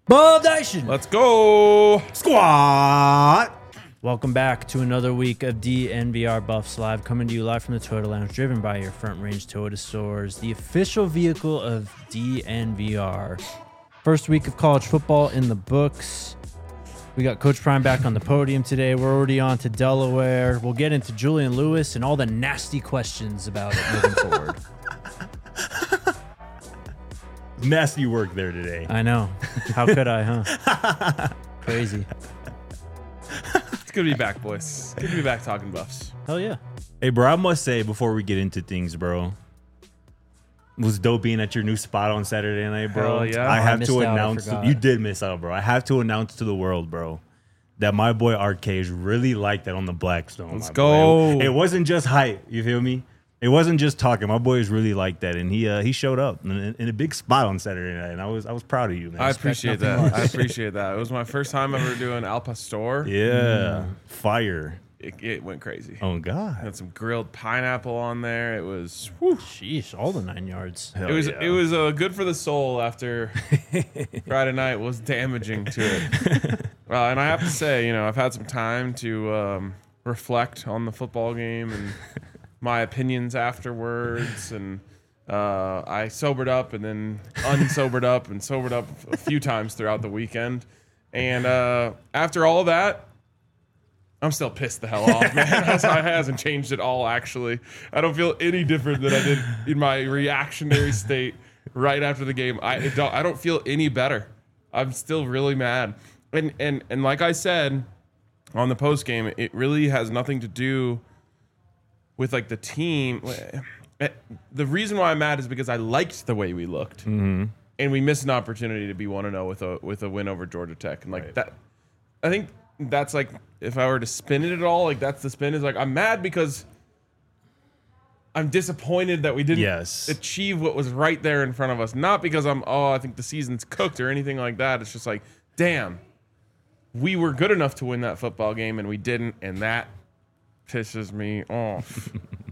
Bob Nation. Let's go. Squad. Welcome back to another week of DNVR Buffs Live, coming to you live from the Toyota Lounge, driven by your Front Range Toyota stores, the official vehicle of DNVR. First week of college football in the books. We got Coach Prime back on the podium today. We're already on to Delaware. We'll get into Julian Lewis and all the nasty questions about it moving forward. Nasty work there today. I know. How could I, huh? Crazy. It's good to be back, boys. Good to be back talking Buffs. Hell yeah. Hey, bro, I must say before we get into things, bro, it was dope being at your new spot on Saturday night, bro. Hell yeah. I have missed to out, I announce. forgot. You did miss out, bro. I have to announce to the world, bro, that my boy Arcade really liked that on the Blackstone. Let's my go. boy. It wasn't just hype. You feel me? It wasn't just talking. My boys really liked that, and he showed up in a big spot on Saturday night, and I was proud of you, man. I appreciate nothing that. less. I appreciate that. It was my first time ever doing Al Pastor. Yeah, fire. It went crazy. Oh God, Had some grilled pineapple on there. It was whew. Sheesh, all the 9 yards. Hell It yeah. was good for the soul after Friday night was damaging to it. And I have to say, I've had some time to reflect on the football game and my opinions afterwards, and I sobered up and then unsobered up and sobered up a few times throughout the weekend. And after all that, I'm still pissed the hell off, man. It hasn't changed at all, actually. I don't feel any different than I did in my reactionary state right after the game. I don't feel any better. I'm still really mad. And like I said on the post game, it really has nothing to do with like the team. The reason why I'm mad is because I liked the way we looked, and we missed an opportunity to be 1-0 with a win over Georgia Tech, and like that. I think that's like, if I were to spin it at all, like that's the spin, is like I'm mad because I'm disappointed that we didn't achieve what was right there in front of us. Not because I think the season's cooked or anything like that. It's just like, damn, we were good enough to win that football game and we didn't, and that pisses me off.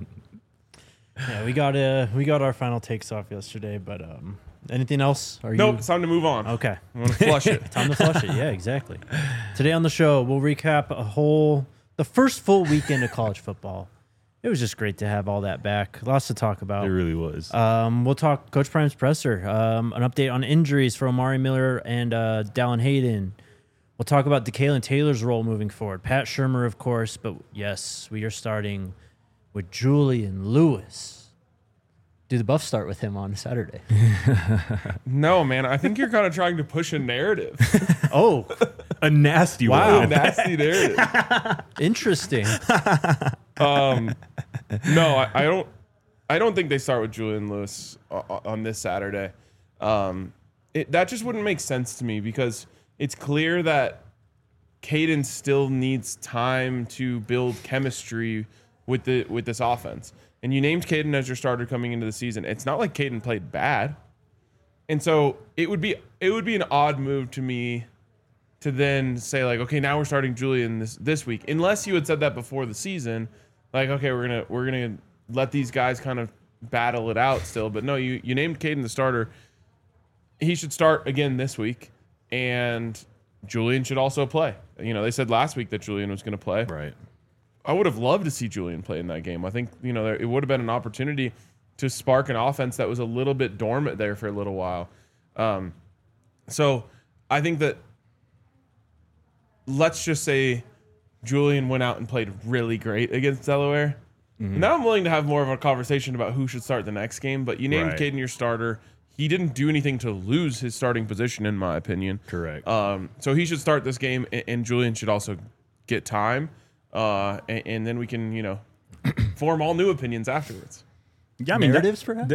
Yeah, we got our final takes off yesterday, but anything else? Nope, it's time to move on. Okay. I want to flush it. Time to flush it. Yeah, exactly. Today on the show, we'll recap the first full weekend of college football. It was just great to have all that back. Lots to talk about. it really was. We'll talk Coach Prime's presser, an update on injuries for Amari Miller and Dallin Hayden. We'll talk about DeKalen Taylor's role moving forward. Pat Shurmur, of course, but yes, we are starting with Julian Lewis. Do the Buffs start with him on Saturday? No, man, I think you're kind of trying to push a narrative. Oh, A nasty Wow. one. Nasty narrative. interesting. No, I don't think they start with Julian Lewis on this Saturday. That just wouldn't make sense to me, because it's clear that Caden still needs time to build chemistry with this offense. And you named Caden as your starter coming into the season. It's not like Caden played bad. And so it would be an odd move to me to then say, like, okay, now we're starting Julian this week. Unless you had said that before the season, like, okay, we're gonna let these guys kind of battle it out still. But no, you named Caden the starter. He should start again this week, and Julian should also play. They said last week that Julian was going to play. Right. I would have loved to see Julian play in that game. I think, it would have been an opportunity to spark an offense that was a little bit dormant there for a little while. So I think that, let's just say Julian went out and played really great against Delaware. Now I'm willing to have more of a conversation about who should start the next game, but you named Right. Caden your starter. He didn't do anything to lose his starting position, in my opinion. Correct. So he should start this game, and Julian should also get time. And then we can, form all new opinions afterwards. Yeah, I mean, Narratives, perhaps?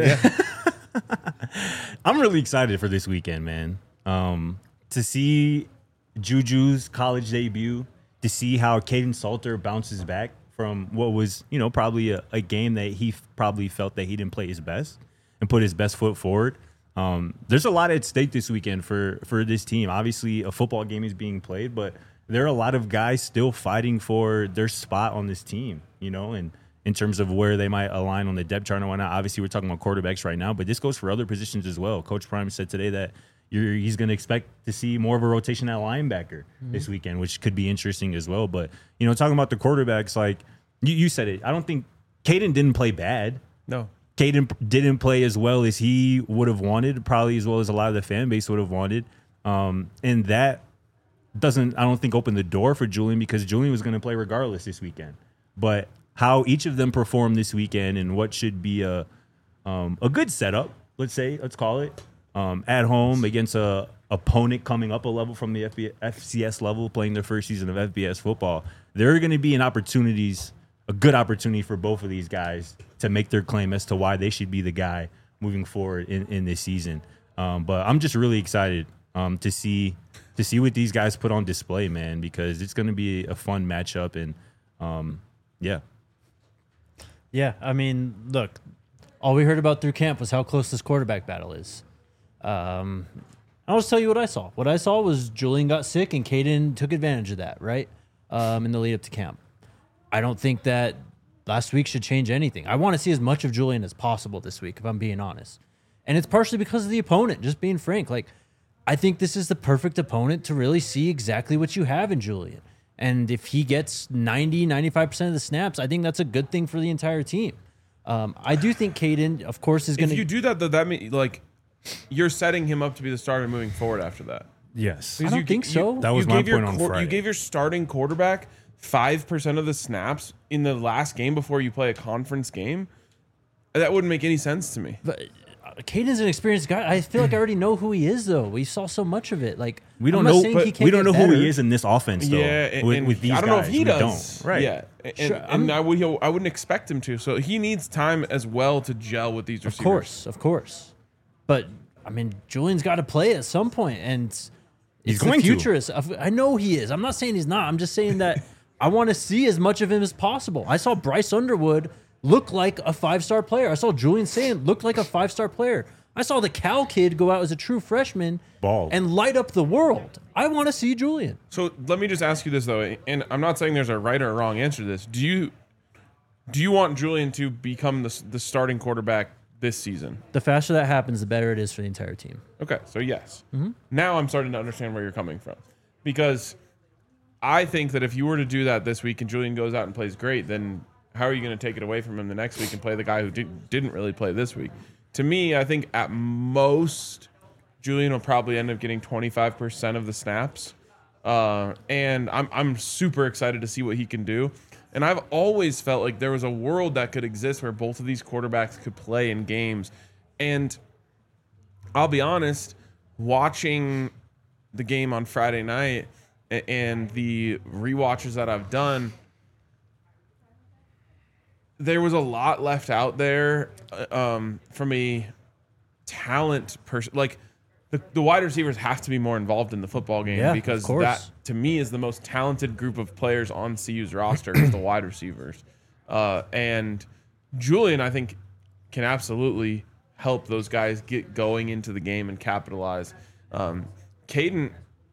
I'm really excited for this weekend, man. To see Juju's college debut, to see how Caden Salter bounces back from what was, probably a game that he probably felt that he didn't play his best and put his best foot forward. There's a lot at stake this weekend for this team. Obviously, a football game is being played, but there are a lot of guys still fighting for their spot on this team, and in terms of where they might align on the depth chart and whatnot. Obviously, we're talking about quarterbacks right now, but this goes for other positions as well. Coach Prime said today that, he's going to expect to see more of a rotation at linebacker this weekend, which could be interesting as well. But, talking about the quarterbacks, like you said it, I don't think Caden didn't play bad. No. Caden didn't play as well as he would have wanted, probably as well as a lot of the fan base would have wanted. And that doesn't, I don't think, open the door for Julian, because Julian was going to play regardless this weekend. But how each of them perform this weekend and what should be a good setup, let's call it, at home against a opponent coming up a level from the FCS level, playing their first season of FBS football, there are going to be a good opportunity for both of these guys to make their claim as to why they should be the guy moving forward in this season. But I'm just really excited to see what these guys put on display, man, because it's going to be a fun matchup. And Yeah, I mean, look, all we heard about through camp was how close this quarterback battle is. I'll just tell you what I saw. What I saw was Julian got sick and Caden took advantage of that, right, in the lead up to camp. I don't think that last week should change anything. I want to see as much of Julian as possible this week, if I'm being honest. And it's partially because of the opponent, just being frank. Like, I think this is the perfect opponent to really see exactly what you have in Julian. And if he gets 95% of the snaps, I think that's a good thing for the entire team. I do think Caden, of course, is going to... If you do that, though, that means, like, you're setting him up to be the starter moving forward after that. yes. I don't think so. That was my point on Friday. You gave your starting quarterback 5% of the snaps in the last game before you play a conference game. That wouldn't make any sense to me. But Caden's an experienced guy. I feel like I already know who he is, though. We saw so much of it. Like, We don't I'm not know, saying but he can't we don't know get who better. he is in this offense, though. Yeah, with these I don't know if guys. he We does. don't. Right. Yeah, and, Sure, and I wouldn't expect him to. So he needs time as well to gel with these receivers. Of course. But, I mean, Julian's got to play at some point, and He's the going to. future is. I know he is. I'm not saying he's not. I'm just saying that I want to see as much of him as possible. I saw Bryce Underwood look like a 5-star player. I saw Julian Sand look like a 5-star player. I saw the Cal kid go out as a true freshman Ball. and light up the world. I want to see Julian. So let me just ask you this, though, and I'm not saying there's a right or a wrong answer to this. Do you want Julian to become the starting quarterback this season? The faster that happens, the better it is for the entire team. Okay, so yes. Mm-hmm. Now I'm starting to understand where you're coming from, because I think that if you were to do that this week and Julian goes out and plays great, then how are you going to take it away from him the next week and play the guy who didn't really play this week? To me, I think at most Julian will probably end up getting 25% of the snaps, and I'm super excited to see what he can do. And I've always felt like there was a world that could exist where both of these quarterbacks could play in games. And I'll be honest, watching the game on Friday night and the rewatches that I've done, there was a lot left out there from a talent person. Like, the wide receivers have to be more involved in the football game, because that, to me, is the most talented group of players on CU's roster is the wide receivers. And Julian, I think, can absolutely help those guys get going into the game and capitalize. Caden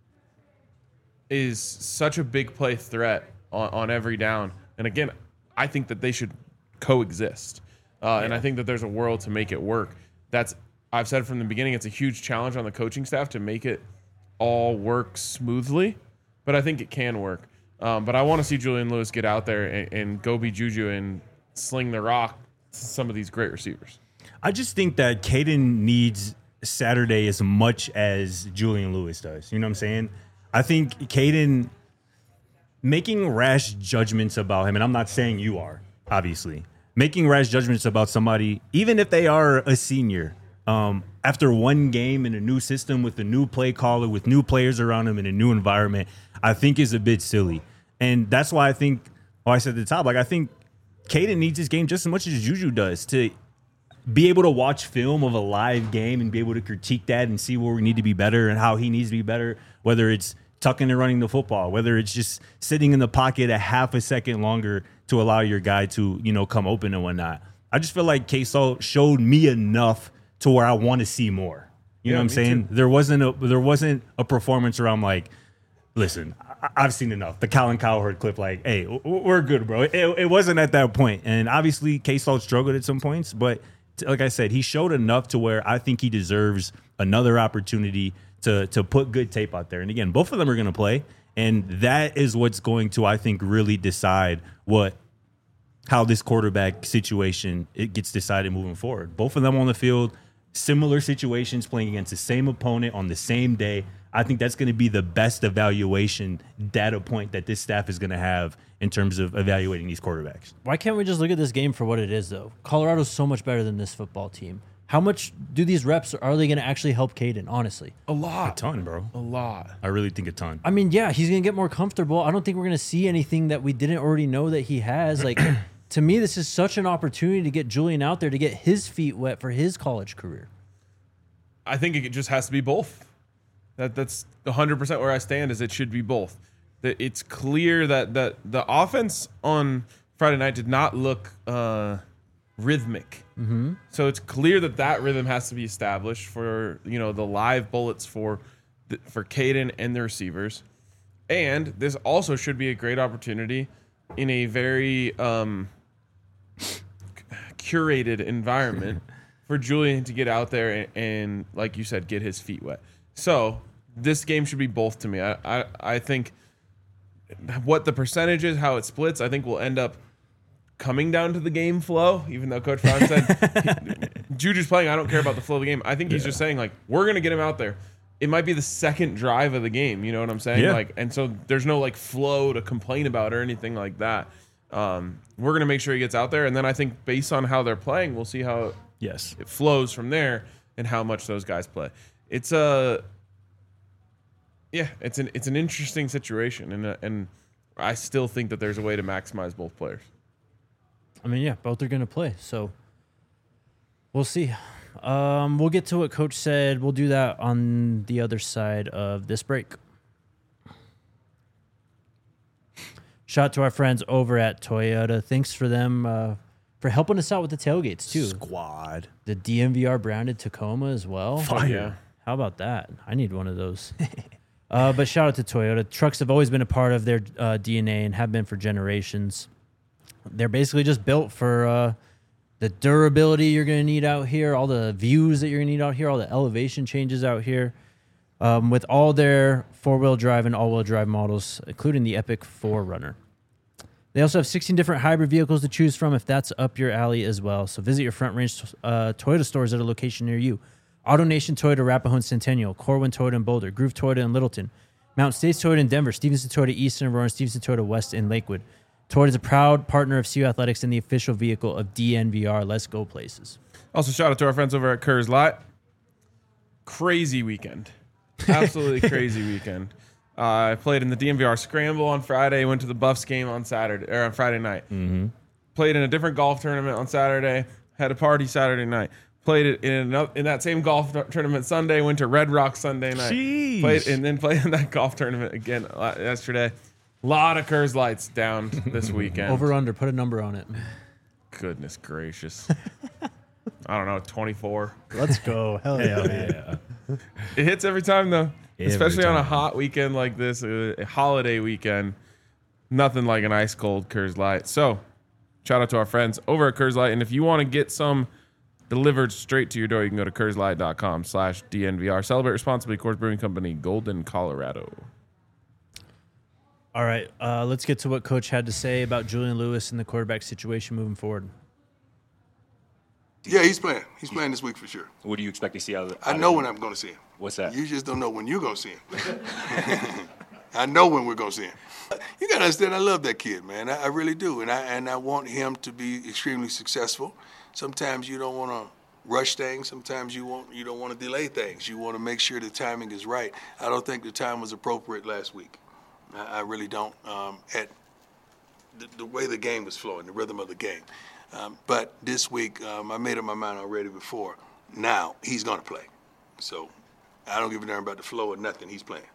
is such a big play threat on every down. And again, I think that they should coexist. And I think that there's a world to make it work. I've said from the beginning, it's a huge challenge on the coaching staff to make it all work smoothly, but I think it can work. But I want to see Julian Lewis get out there and go be Juju and sling the rock to some of these great receivers. I just think that Caden needs Saturday as much as Julian Lewis does. You know what I'm saying? I think Caden making rash judgments about him, and I'm not saying you are, obviously, making rash judgments about somebody, even if they are a senior, after one game in a new system with a new play caller, with new players around him in a new environment, I think is a bit silly. And that's why I think, I said at the top, like, I think Caden needs his game just as much as Juju does to be able to watch film of a live game and be able to critique that and see where we need to be better and how he needs to be better, whether it's tucking and running the football, whether it's just sitting in the pocket a half a second longer to allow your guy to, come open and whatnot. I just feel like K-Salt showed me enough to where I want to see more. You know what I'm saying? Too. There wasn't a performance where I'm like, listen, I've seen enough. The Colin Cowherd clip, like, hey, we're good, bro. It wasn't at that point. And obviously K-Salt struggled at some points, but like I said, he showed enough to where I think he deserves another opportunity to put good tape out there. And again, both of them are going to play, and that is what's going to, I think, really decide how this quarterback situation it gets decided moving forward. Both of them on the field, similar situations, playing against the same opponent on the same day. I think that's going to be the best evaluation data point that this staff is going to have in terms of evaluating these quarterbacks. Why can't we just look at this game for what it is, though? Colorado's so much better than this football team. How much do these reps, are they going to actually help Caden, honestly? A lot. A ton, bro. A lot. I really think a ton. I mean, yeah, he's going to get more comfortable. I don't think we're going to see anything that we didn't already know that he has. Like, to me, this is such an opportunity to get Julian out there to get his feet wet for his college career. I think it just has to be both. That's 100% where I stand. Is it should be both. It's clear that the offense on Friday night did not look rhythmic. Mm-hmm. So it's clear that rhythm has to be established for the live bullets for Caden and the receivers. And this also should be a great opportunity in a very curated environment for Julian to get out there and, like you said, get his feet wet. So this game should be both to me. I think what the percentage is, how it splits, I think will end up coming down to the game flow, even though Coach Brown said Juju's playing, I don't care about the flow of the game. I think he's just saying, like, we're going to get him out there. It might be the second drive of the game, you know what I'm saying? Yeah. Like, and so there's no like flow to complain about or anything like that. We're going to make sure he gets out there, and then I think based on how they're playing, we'll see how it flows from there and how much those guys play. It's an interesting situation, and I still think that there's a way to maximize both players. I mean, yeah, both are going to play, so we'll see. We'll get to what Coach said. We'll do that on the other side of this break. Shout out to our friends over at Toyota. Thanks for them for helping us out with the tailgates, too. Squad. The DNVR branded Tacoma as well. Fire. Yeah. How about that? I need one of those. But shout out to Toyota. Trucks have always been a part of their DNA and have been for generations. They're basically just built for the durability you're going to need out here, all the views that you're going to need out here, all the elevation changes out here. With all their four-wheel drive and all-wheel drive models, including the Epic 4Runner. They also have 16 different hybrid vehicles to choose from if that's up your alley as well. So visit your Front Range Toyota stores at a location near you. AutoNation Toyota, Arapahoe and Centennial, Corwin Toyota in Boulder, Groove Toyota in Littleton, Mountain States Toyota in Denver, Stevenson Toyota East in Aurora, and Stevenson Toyota West in Lakewood. Toyota is a proud partner of CU Athletics and the official vehicle of DNVR. Let's go places. Also, shout out to our friends over at Coors Light. Crazy weekend. Absolutely crazy weekend. I played in the DNVR Scramble on Friday, went to the Buffs game on Friday night. Mm-hmm. Played in a different golf tournament on Saturday, had a party Saturday night. Played it in that same golf tournament Sunday, went to Red Rock Sunday night. Jeez. Played in that golf tournament again yesterday. A lot of Coors Lights down this weekend. Over under, put a number on it. Goodness gracious. I don't know, 24. Let's go. Hell yeah. It hits every time, though. Every Especially on a time. hot weekend like this, a holiday weekend. Nothing like an ice cold Coors Light. So, shout out to our friends over at Coors Light. And if you want to get some delivered straight to your door, you can go to CoorsLight.com/DNVR. Celebrate responsibly. Coors Brewing Company, Golden, Colorado. All right, let's get to what Coach had to say about Julian Lewis and the quarterback situation moving forward. Yeah, he's playing. He's playing this week for sure. What do you expect to see out of I know when I'm going to see him. What's that? You just don't know when you're going to see him. I know when we're going to see him. You got to understand, I love that kid, man. I really do. And I want him to be extremely successful. Sometimes you don't want to rush things. Sometimes you don't want to delay things. You want to make sure the timing is right. I don't think the time was appropriate last week. I really don't. At the way the game was flowing, the rhythm of the game. But this week, I made up my mind already before. Now, he's going to play. So I don't give a damn about the flow or nothing. He's playing.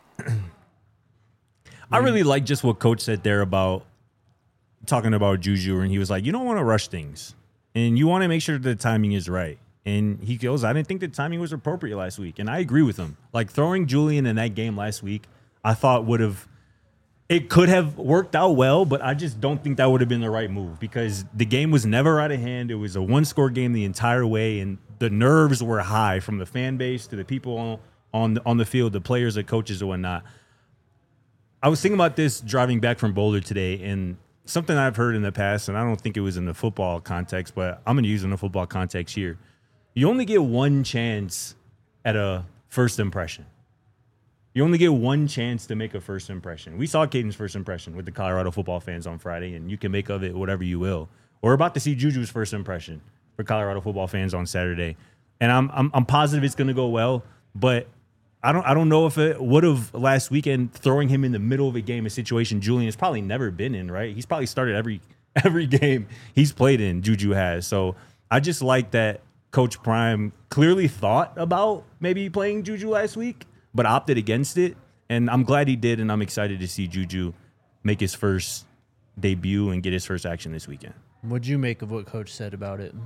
I really like just what Coach said there about talking about Juju, and he was like, you don't want to rush things, and you want to make sure the timing is right. And he goes, I didn't think the timing was appropriate last week, and I agree with him. Like, throwing Julian in that game last week, I thought would have it could have worked out well, but I just don't think that would have been the right move because the game was never out of hand. It was a one-score game the entire way, and the nerves were high from the fan base to the people on the field, the players, the coaches, and whatnot. I was thinking about this driving back from Boulder today, and something I've heard in the past, and I don't think it was in the football context, but I'm going to use it in the football context here. You only get one chance at a first impression. You only get one chance to make a first impression. We saw Caden's first impression with the Colorado football fans on Friday, and you can make of it whatever you will. We're about to see Juju's first impression for Colorado football fans on Saturday, and I'm positive it's going to go well. But I don't know if it would have last weekend, throwing him in the middle of a game, a situation Julian's probably never been in. Right? He's probably started every game he's played in. Juju has. So I just like that Coach Prime clearly thought about maybe playing Juju last week, but opted against it. And I'm glad he did, and I'm excited to see Juju make his first debut and get his first action this weekend. What'd you make of what Coach said about it?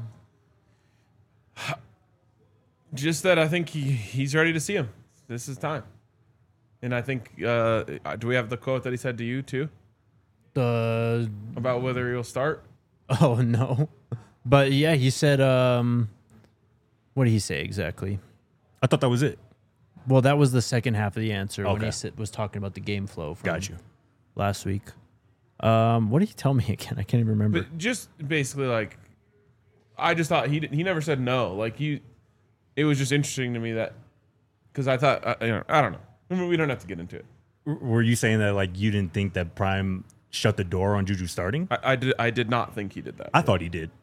Just that I think he's ready to see him. This is time. And I think, do we have the quote that he said to you too? About whether he'll start? Oh, no. But yeah, he said, what did he say exactly? I thought that was it. Well, that was the second half of the answer when Okay. he was talking about the game flow from Got you. last week. What did he tell me again? I can't even remember. But just basically, like, I just thought he never said no. Like, it was just interesting to me that, because I thought, I don't know. We don't have to get into it. Were you saying that like you didn't think that Prime shut the door on Juju starting? I did not think he did that. I thought he did.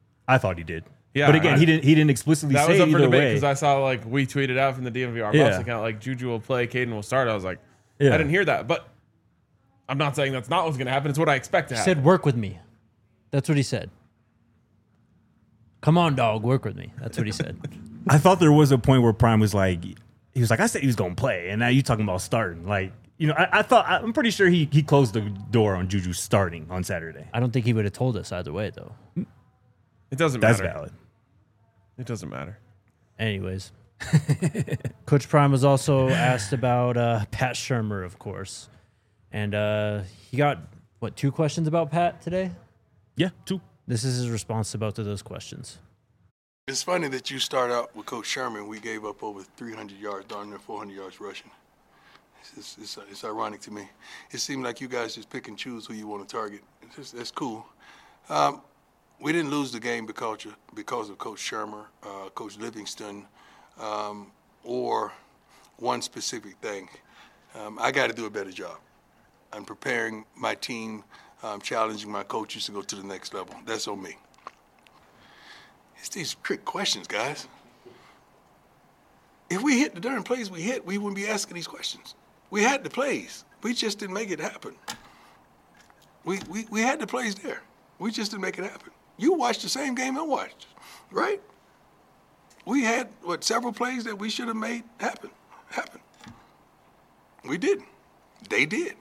Yeah, but again, he didn't explicitly That say was up for either debate way. because I saw like we tweeted out from the DNVR Yeah. Buffs account like Juju will play, Caden will start. I was like, Yeah. I didn't hear that, but I'm not saying that's not what's going to happen. It's what I expect to He happen. said, work with me. That's what he said. Come on, dog, work with me. That's what he said. I thought there was a point where Prime was like, I said he was going to play, and now you talking about starting. Like, I'm pretty sure he closed the door on Juju starting on Saturday. I don't think he would have told us either way, though. It doesn't That's matter. valid. It doesn't matter. Anyways. Coach Prime was also asked about Pat Shurmur, of course. And he got, 2 questions about Pat today? Yeah, 2. This is his response to both of those questions. It's funny that you start out with Coach Sherman. We gave up over 300 yards, darn near 400 yards rushing. It's ironic to me. It seemed like you guys just pick and choose who you want to target. That's cool. We didn't lose the game because of Coach Shermer, Coach Livingston, or one specific thing. I got to do a better job. I'm preparing my team, challenging my coaches to go to the next level. That's on me. It's these trick questions, guys. If we hit the darn plays we hit, we wouldn't be asking these questions. We had the plays. We just didn't make it happen. We had the plays there. We just didn't make it happen. You watched the same game I watched, right? We had, several plays that we should have made happen. We didn't. They did.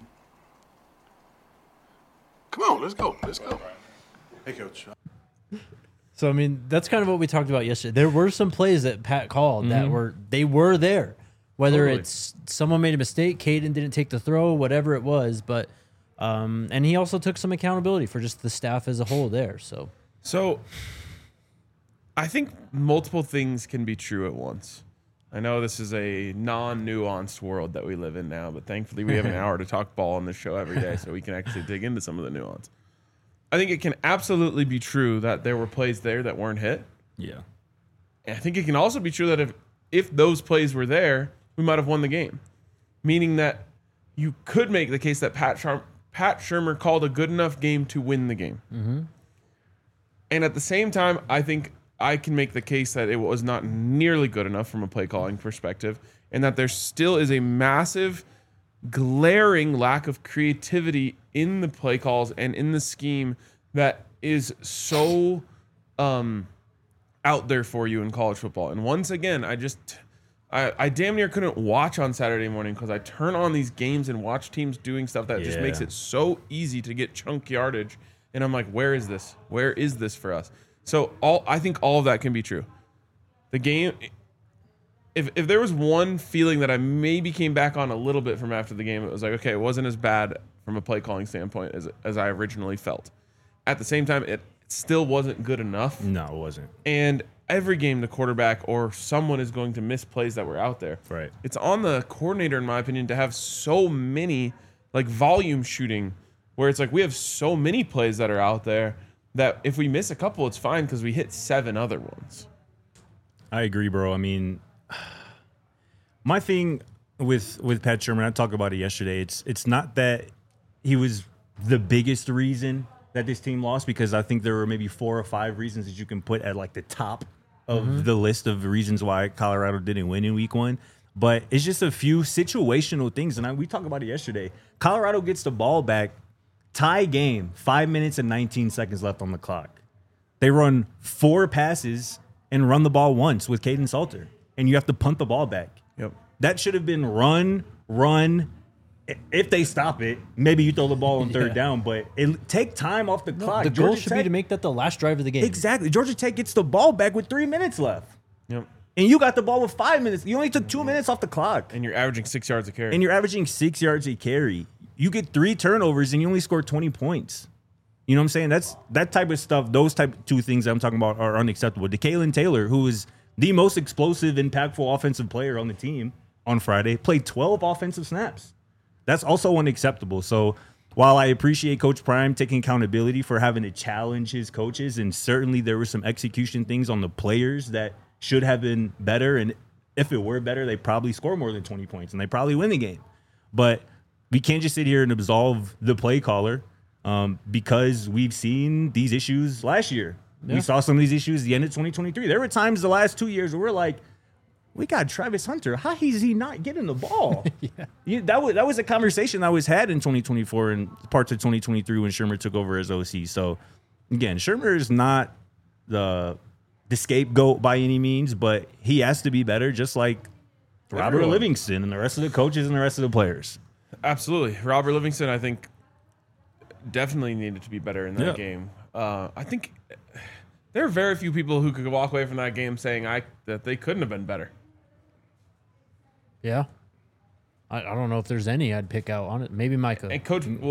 Come on, let's go. Hey, Coach. So, I mean, that's kind of what we talked about yesterday. There were some plays that Pat called that were there. Whether Totally. it's someone made a mistake, Caden didn't take the throw, whatever it was. But and he also took some accountability for just the staff as a whole there. So I think multiple things can be true at once. I know this is a non-nuanced world that we live in now, but thankfully we have an hour to talk ball on this show every day, so we can actually dig into some of the nuance. I think it can absolutely be true that there were plays there that weren't hit. Yeah. And I think it can also be true that if those plays were there, we might have won the game. Meaning that you could make the case that Pat Shurmur called a good enough game to win the game. Mm-hmm. And at the same time, I think I can make the case that it was not nearly good enough from a play calling perspective, and that there still is a massive, glaring lack of creativity in the play calls and in the scheme that is so out there for you in college football. And once again, I damn near couldn't watch on Saturday morning because I turn on these games and watch teams doing stuff that just makes it so easy to get chunk yardage. And I'm like, where is this? Where is this for us? So I think all of that can be true. The game, if there was one feeling that I maybe came back on a little bit from after the game, it was like, okay, it wasn't as bad from a play calling standpoint as I originally felt. At the same time, it still wasn't good enough. No, it wasn't. And every game, the quarterback or someone is going to miss plays that were out there. Right. It's on the coordinator, in my opinion, to have so many like volume shooting where it's like we have so many plays that are out there that if we miss a couple, it's fine because we hit 7 other ones. I agree, bro. I mean, my thing with Pat Shermer, I talked about it yesterday. It's not that he was the biggest reason that this team lost, because I think there were maybe 4 or 5 reasons that you can put at like the top of the list of reasons why Colorado didn't win in week 1. But it's just a few situational things. And we talked about it yesterday. Colorado gets the ball back, tie game, 5 minutes and 19 seconds left on the clock. They run 4 passes and run the ball once with Caden Salter, and you have to punt the ball back. Yep. That should have been run. If they stop it, maybe you throw the ball on third down, but take time off the clock. The goal should be to make that the last drive of the game. Exactly. Georgia Tech gets the ball back with 3 minutes left. Yep. And you got the ball with 5 minutes. You only took 2 minutes off the clock. And you're averaging 6 yards a carry. And you're averaging 6 yards a carry. You get 3 turnovers and you only score 20 points. You know what I'm saying? That's that type of stuff. Those type 2 things that I'm talking about are unacceptable. DeKalen Taylor, who is the most explosive, impactful offensive player on the team on Friday, played 12 offensive snaps. That's also unacceptable. So while I appreciate Coach Prime taking accountability for having to challenge his coaches, and certainly there were some execution things on the players that should have been better, and if it were better, they probably score more than 20 points and they probably win the game. But we can't just sit here and absolve the play caller because we've seen these issues last year. Yeah. We saw some of these issues at the end of 2023. There were times the last 2 years where we're like, we got Travis Hunter. How is he not getting the ball? That was a conversation that was had in 2024 and parts of 2023 when Shermer took over as OC. So, again, Shermer is not the scapegoat by any means, but he has to be better, just like Robert Livingston and the rest of the coaches and the rest of the players. Absolutely. Robert Livingston, I think, definitely needed to be better in that game. I think there are very few people who could walk away from that game saying that they couldn't have been better. Yeah. I don't know if there's any I'd pick out on it. Maybe Micah. And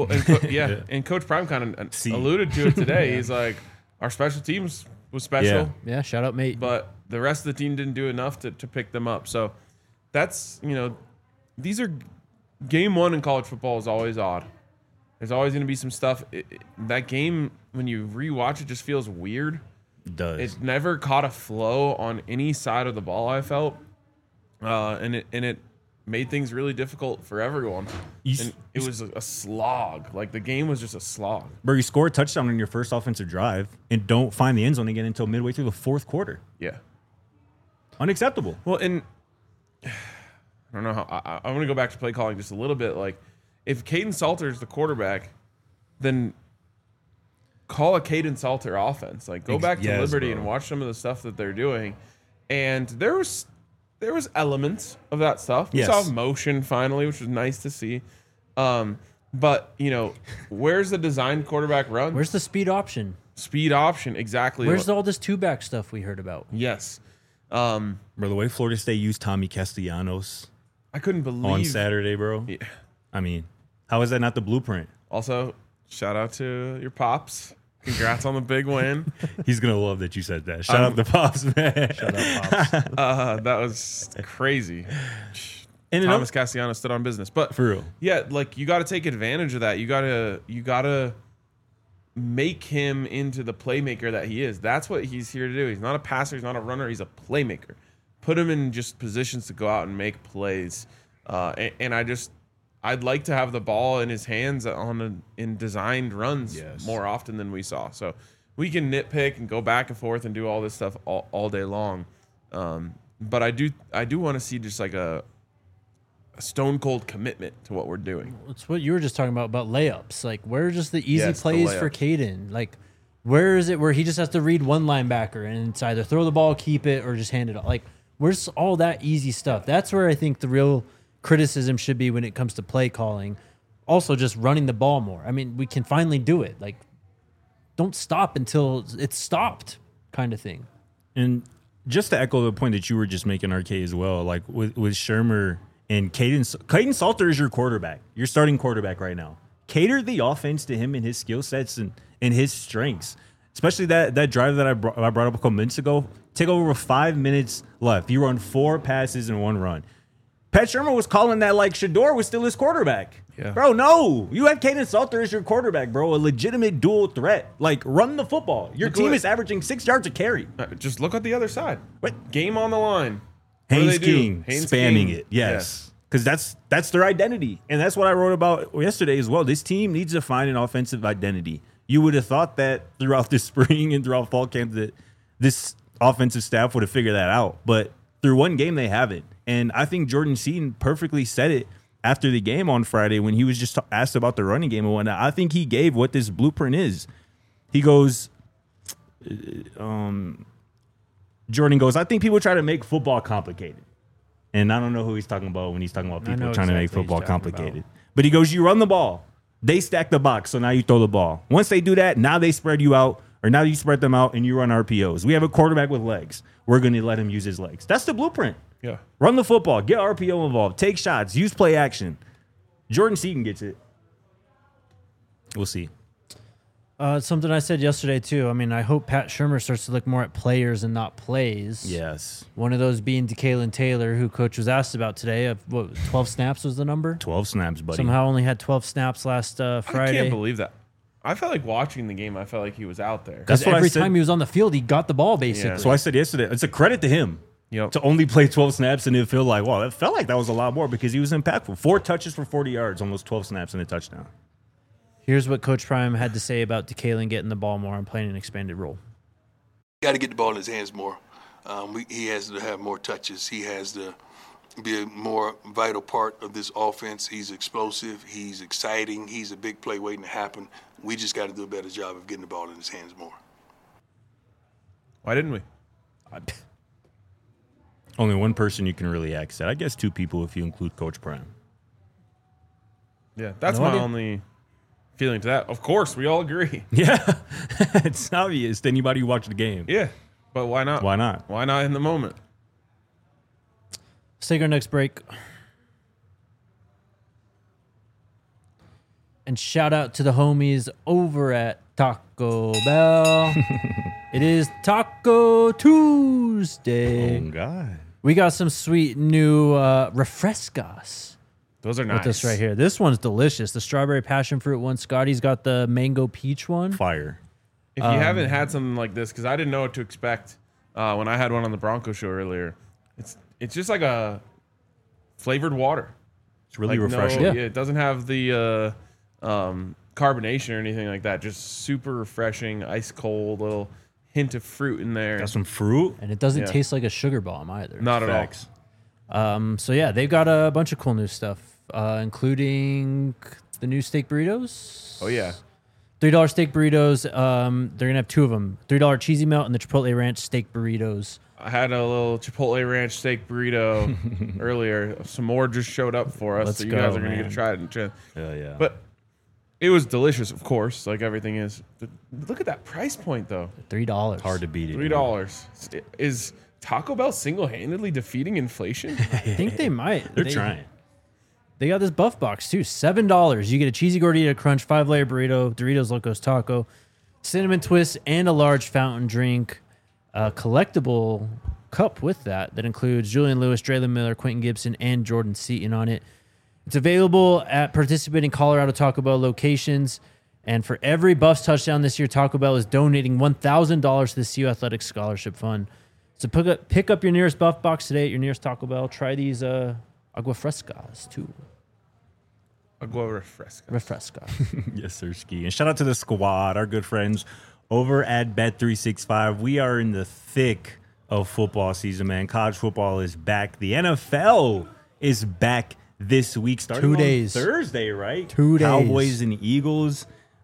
Coach Prime kind of alluded to it today. He's like, our special teams was special. Yeah, shout out, mate. But the rest of the team didn't do enough to pick them up. So that's, these are game 1 in college football is always odd. There's always going to be some stuff. That game, when you rewatch it, just feels weird. It does. It never caught a flow on any side of the ball, I felt. And it made things really difficult for everyone. And it was a slog. Like, the game was just a slog. Bro, you score a touchdown on your first offensive drive and don't find the end zone again until midway through the 4th quarter. Yeah. Unacceptable. Well, and I don't know how. I want to go back to play calling just a little bit. Like, if Caden Salter is the quarterback, then call a Caden Salter offense. Like, go back to Liberty and watch some of the stuff that they're doing. And there was elements of that stuff. We saw motion finally, which was nice to see. But, where's the designed quarterback run? Where's the speed option? Speed option, exactly. Where's all this 2-back stuff we heard about? Yes. Bro, the way Florida State used Tommy Castellanos I couldn't believe on Saturday, bro. Yeah. I mean, how is that not the blueprint? Also, shout out to your pops. Congrats on the big win. He's going to love that you said that. Shout out to Pops, man. Shout out Pops. That was crazy. And Thomas Castellanos stood on business. But for real. Yeah, like, you got to take advantage of that. You got to make him into the playmaker that he is. That's what he's here to do. He's not a passer. He's not a runner. He's a playmaker. Put him in just positions to go out and make plays. And I'd like to have the ball in his hands in designed runs more often than we saw. So we can nitpick and go back and forth and do all this stuff all day long. But I do want to see just like a stone cold commitment to what we're doing. It's what you were just talking about layups. Like, where are just the easy plays for Caden? Like, where is it where he just has to read one linebacker and it's either throw the ball, keep it, or just hand it off? Like, where's all that easy stuff? That's where I think the real criticism should be when it comes to play calling. Also, just running the ball more. I mean, we can finally do it. Like, don't stop until it's stopped, kind of thing. And just to echo the point that you were just making, RK, as well, like with Shermer and Clayton Salter is your quarterback. Your starting quarterback right now. Cater the offense to him and his skill sets and his strengths. Especially that drive that I brought up a couple minutes ago. Take over with 5 minutes left. You run 4 passes and 1 run. Pat Shermer was calling that like Shedeur was still his quarterback. Yeah. Bro, no. You have Caden Salter as your quarterback, bro. A legitimate dual threat. Like, run the football. Your team is averaging 6 yards a carry. Just look at the other side. What? Game on the line. What do Haynes they do? King Haynes spamming King. it. Yes. Because that's their identity. And that's what I wrote about yesterday as well. This team needs to find an offensive identity. You would have thought that throughout the spring and throughout fall camp that this offensive staff would have figured that out. But through one game, they haven't. And I think Jordan Seaton perfectly said it after the game on Friday when he was just asked about the running game and whatnot. I think he gave what this blueprint is. He goes, Jordan goes, I think people try to make football complicated. And I don't know who he's talking about when he's talking about people trying to make football complicated. But he goes, you run the ball. They stack the box, so now you throw the ball. Once they do that, now they spread you out, or now you spread them out and you run RPOs. We have a quarterback with legs. We're going to let him use his legs. That's the blueprint. Yeah. Run the football. Get RPO involved. Take shots. Use play action. Jordan Seaton gets it. We'll see. Something I said yesterday, too. I mean, I hope Pat Shermer starts to look more at players and not plays. Yes. One of those being DeKalen Taylor, who Coach was asked about today. Of what, 12 snaps was the number? 12 snaps, buddy. Somehow only had 12 snaps last Friday. I can't believe that. I felt like watching the game. I felt like he was out there. That's Because what I every said. time he was on the field, he got the ball, basically. Yeah. So I said yesterday, it's a credit to him Yep. to only play 12 snaps and it feel like, wow, it felt like that was a lot more because he was impactful. 4 touches for 40 yards, almost 12 snaps and a touchdown. Here's what Coach Prime had to say about DeKalen getting the ball more and playing an expanded role. Got to get the ball in his hands more. He has to have more touches. He has to be a more vital part of this offense. He's explosive. He's exciting. He's a big play waiting to happen. We just got to do a better job of getting the ball in his hands more. Why didn't we? Only one person you can really ask that. I guess 2 people if you include Coach Prime. Yeah, that's No my idea. only feeling to that. Of course, we all agree. Yeah, it's obvious to anybody who watched the game. Yeah, but why not? Why not? Why not in the moment? Let's take our next break. And shout out to the homies over at Taco Bell. It is Taco Tuesday. Oh, God. We got some sweet new refrescas Those are nice. with this right here. This one's delicious. The strawberry passion fruit one. Scotty's got the mango peach one. Fire. If you haven't had something like this, because I didn't know what to expect when I had one on the Bronco show earlier, it's just like a flavored water. It's really Like, refreshing. Yeah. It doesn't have the carbonation or anything like that. Just super refreshing, ice cold, little hint of fruit in there. Got some fruit. And it doesn't Yeah. taste like a sugar bomb either. Not at all. Facts. So yeah, they've got a bunch of cool new stuff, including the new steak burritos. Oh yeah. $3 steak burritos. They're gonna have 2 of them: $3 cheesy melt and the Chipotle ranch steak burritos. I had a little Chipotle ranch steak burrito earlier. Some more just showed up for us, Let's so you guys go, are gonna get man. to try it. Hell yeah. But it was delicious, of course, like everything is. But look at that price point, though. $3. hard to beat it. $3. Is Taco Bell single-handedly defeating inflation? I think they might. They're trying. They got this buff box too. $7. You get a cheesy gordita crunch, 5-layer burrito, Doritos Locos Taco, cinnamon twist, and a large fountain drink. A collectible cup with that includes Julian Lewis, Draylon Miller, Quentin Gibson, and Jordan Seaton on it. It's available at participating Colorado Taco Bell locations. And for every Buffs touchdown this year, Taco Bell is donating $1,000 to the CU Athletics Scholarship Fund. So pick up your nearest Buff box today at your nearest Taco Bell. Try these agua frescas too. Agua refresca. Refresca. Yes, sir, Ski. And shout out to the squad, our good friends over at Bet365. We are in the thick of football season, man. College football is back. The NFL is back this week, starting 2 days. on Thursday, right? 2 days. Cowboys and Eagles.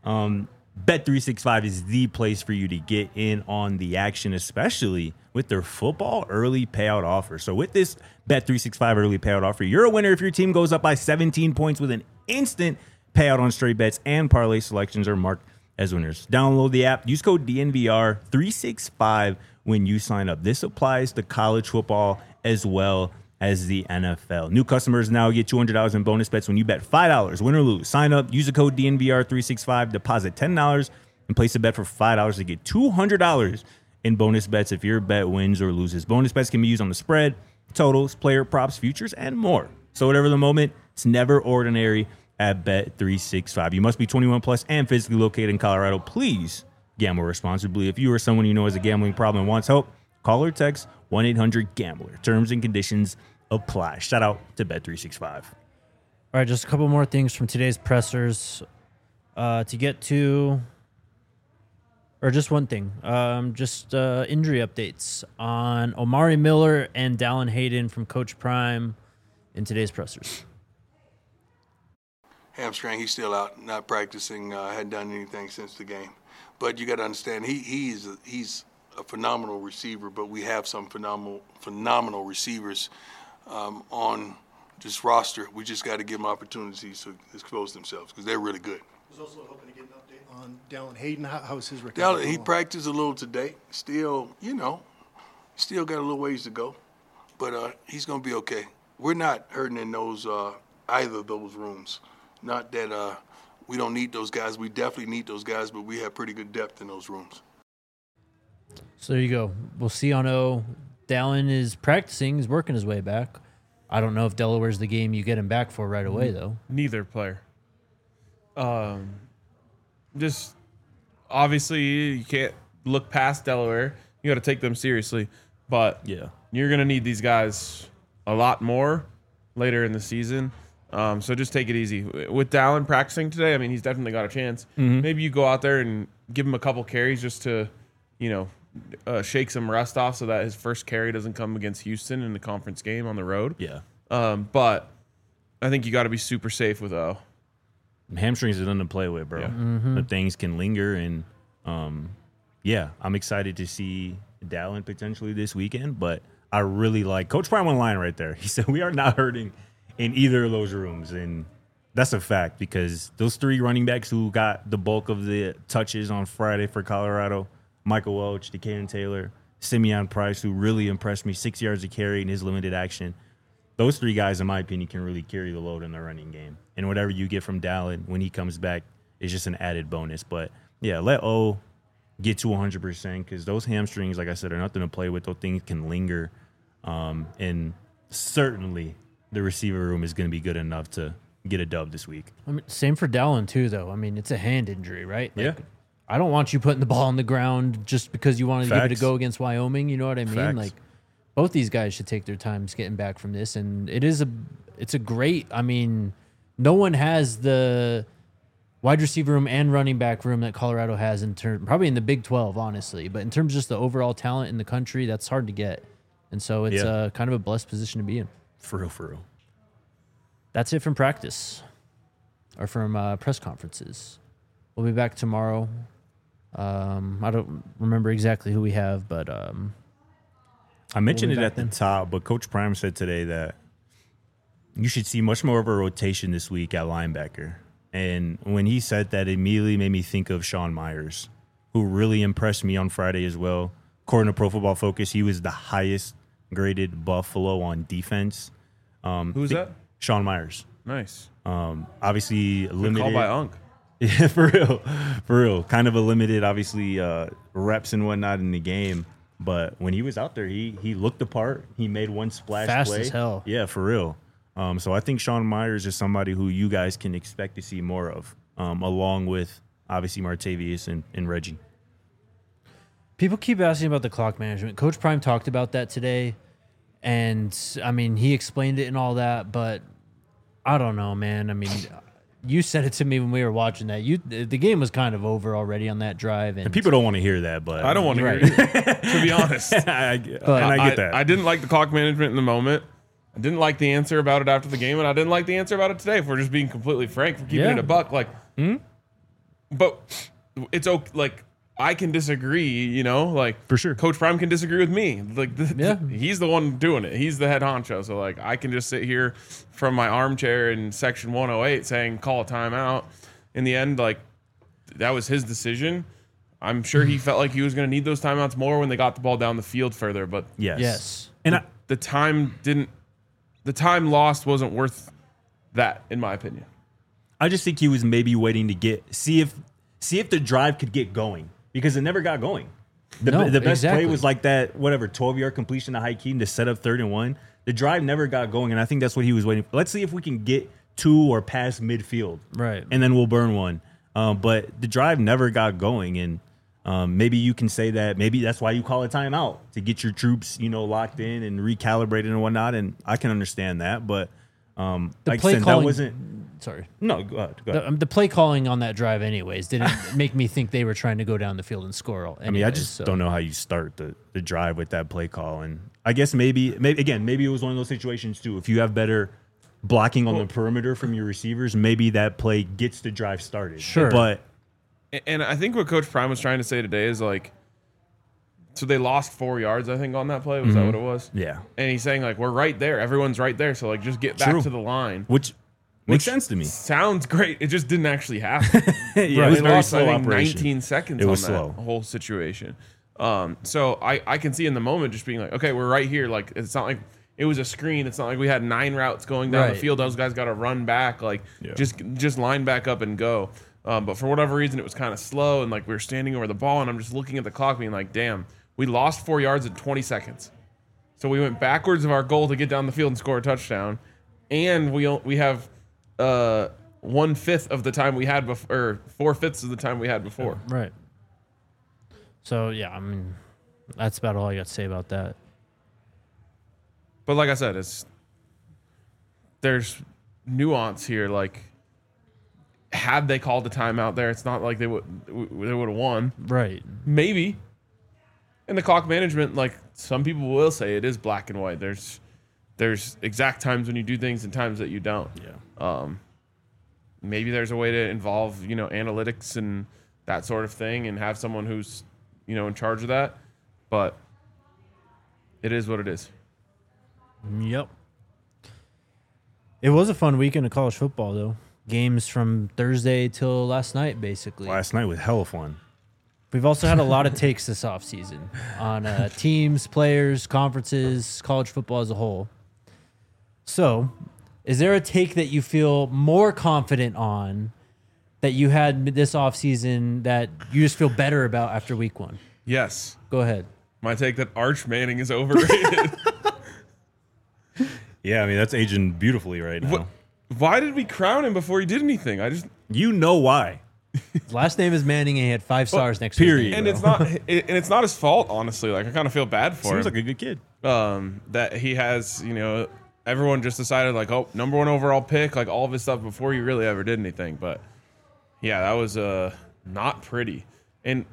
Bet365 is the place for you to get in on the action, especially with their football early payout offer. So with this Bet365 early payout offer, you're a winner if your team goes up by 17 points with an instant payout on straight bets, and parlay selections are marked as winners. Download the app, use code DNVR365 when you sign up. This applies to college football as well as the NFL. New customers now get $200 in bonus bets when you bet $5, win or lose. Sign up, use the code DNVR365, deposit $10, and place a bet for $5 to get $200 in bonus bets if your bet wins or loses. Bonus bets can be used on the spread, totals, player props, futures, and more. So whatever the moment, it's never ordinary at Bet365. You must be 21 plus and physically located in Colorado. Please gamble responsibly. If you or someone you know has a gambling problem and wants help, call or text 1-800-GAMBLER. Terms and conditions apply. Shout out to Bet365. All right, just a couple more things from today's pressers to get to, or just one thing, injury updates on Omari Miller and Dallin Hayden from Coach Prime in today's pressers. Hamstring, he's still out, not practicing, hadn't done anything since the game. But you got to understand, he's a phenomenal receiver, but we have some phenomenal receivers on this roster. We just got to give them opportunities to expose themselves because they're really good. I was also hoping to get an update on Dallin Hayden. How's his recovery? He practiced a little today. Still, still got a little ways to go, but he's going to be okay. We're not hurting in those either of those rooms. Not that we don't need those guys. We definitely need those guys, but we have pretty good depth in those rooms. So there you go. We'll see on O. Dallin is practicing. He's working his way back. I don't know if Delaware's the game you get him back for right away, though. Neither player. Just obviously you can't look past Delaware. You got to take them seriously. But Yeah. you're going to need these guys a lot more later in the season. So just take it easy. With Dallin practicing today, I mean, he's definitely got a chance. Maybe you go out there and give him a couple carries just to, shake some rust off so that his first carry doesn't come against Houston in the conference game on the road. Yeah. But I think you got to be super safe with O. Hamstrings are nothing to play with, bro. Yeah. The things can linger, and I'm excited to see Dallin potentially this weekend. But I really like Coach Prime on the line right there. He said we are not hurting in either of those rooms, and that's a fact because those three running backs who got the bulk of the touches on Friday for Colorado, Michael Welch, Decaden Taylor, Simeon Price, who really impressed me, 6 yards of carry in his limited action. Those three guys, in my opinion, can really carry the load in the running game. And whatever you get from Dallin when he comes back is just an added bonus. But, yeah, let O get to 100% because those hamstrings, like I said, are nothing to play with. Those things can linger. And certainly the receiver room is going to be good enough to get a dub this week. I mean, same for Dallin, too, though. I mean, it's a hand injury, right? Yeah. I don't want you putting the ball on the ground just because you wanted to give it a Facts. go against Wyoming. You know what I mean? Facts. Like, both these guys should take their time getting back from this. And it's a great, I mean, no one has the wide receiver room and running back room that Colorado has probably in the Big 12, honestly. But in terms of just the overall talent in the country, that's hard to get. And so it's kind of a blessed position to be in. For real. That's it from practice or from press conferences. We'll be back tomorrow. I don't remember exactly who we have, but I mentioned We'll it be at back the then. top, but Coach Prime said today that you should see much more of a rotation this week at linebacker. And when he said that, it immediately made me think of Sean Myers, who really impressed me on Friday as well. According to Pro Football Focus, he was the highest graded Buffalo on defense. Who's that? Sean Myers. Nice. Obviously limited. Called by Unk. Yeah, for real. Kind of a limited, obviously, reps and whatnot in the game. But when he was out there, he looked the part. He made one splash Fast play. as hell. Yeah, for real. So I think Sean Myers is somebody who you guys can expect to see more of, along with, obviously, Martavius and Reggie. people keep asking about the clock management. Coach Prime talked about that today. And, I mean, he explained it and all that. But I don't know, man. I mean, you said it to me when we were watching that. The game was kind of over already on that drive. And People don't want to hear that, but I don't want to Right. hear it, to be honest. I get that. I didn't like the clock management in the moment. I didn't like the answer about it after the game, and I didn't like the answer about it today. If we're just being completely frank, for keeping Yeah. it a buck, but it's okay. Like, I can disagree, For sure. Coach Prime can disagree with me. Yeah. He's the one doing it. He's the head honcho. So I can just sit here from my armchair in section 108 saying call a timeout. In the end, that was his decision. I'm sure he felt like he was going to need those timeouts more when they got the ball down the field further. But Yes. And the time lost wasn't worth that, in my opinion. I just think he was maybe waiting to see if the drive could get going, because it never got going. The best play was like that 12-yard completion to Hakeem to set up 3rd and 1. The drive never got going, and I think that's what he was waiting for. Let's see if we can get to or past midfield, Right, and then we'll burn one. But the drive never got going, and maybe you can say that maybe that's why you call a timeout, to get your troops, locked in and recalibrated and whatnot. And I can understand that, but the like play I said, calling, that wasn't. Sorry. No, go ahead. The play calling on that drive, anyways, didn't make me think they were trying to go down the field and score. I mean, I just don't know how you start the drive with that play call. And I guess maybe it was one of those situations too. If you have better blocking on the perimeter from your receivers, maybe that play gets the drive started. Sure. But And I think what Coach Prime was trying to say today is like, so they lost 4 yards, I think, on that play. Was that what it was? yeah, And he's saying, like, we're right there. Everyone's right there. So, like, just get back True. to the line. which makes sense to me. Sounds great. It just didn't actually happen. Yeah, it They was very lost, slow I think, operation. 19 seconds It was on that slow. whole situation. So I can see in the moment just being like, okay, we're right here. Like, it's not like it was a screen. It's not like we had 9 routes going down the Right. field. Those guys got to run back. Like, just line back up and go. But for whatever reason, it was kind of slow. And, like, we were standing over the ball, and I'm just looking at the clock being like, damn, we lost 4 yards in 20 seconds. So we went backwards of our goal to get down the field and score a touchdown. And we have 1/5 of the time we had before, or 4/5 of the time we had before. Right. So, yeah, I mean, that's about all I got to say about that. But like I said, there's nuance here. Like, had they called the timeout there, it's not like they would have won. Right. Maybe. And the clock management, like some people will say, it is black and white. There's exact times when you do things and times that you don't. Yeah. Maybe there's a way to involve, analytics and that sort of thing, and have someone who's, in charge of that. But it is what it is. Yep. It was a fun weekend of college football, though. Games from Thursday till last night, basically. Last night was hella fun. We've also had a lot of takes this offseason on teams, players, conferences, college football as a whole. So, is there a take that you feel more confident on that you had this offseason that you just feel better about after week 1? Yes. Go ahead. My take that Arch Manning is overrated. Yeah, I mean, that's aging beautifully right now. Why did we crown him before he did anything? You know why. His last name is Manning, and he had 5 stars next to period. his And name. it's not his fault, honestly. Like, I kind of feel bad for Seems him. like a good kid. That he has, everyone just decided like, oh, number 1 overall pick, like all of his stuff before he really ever did anything. But yeah, that was not pretty. And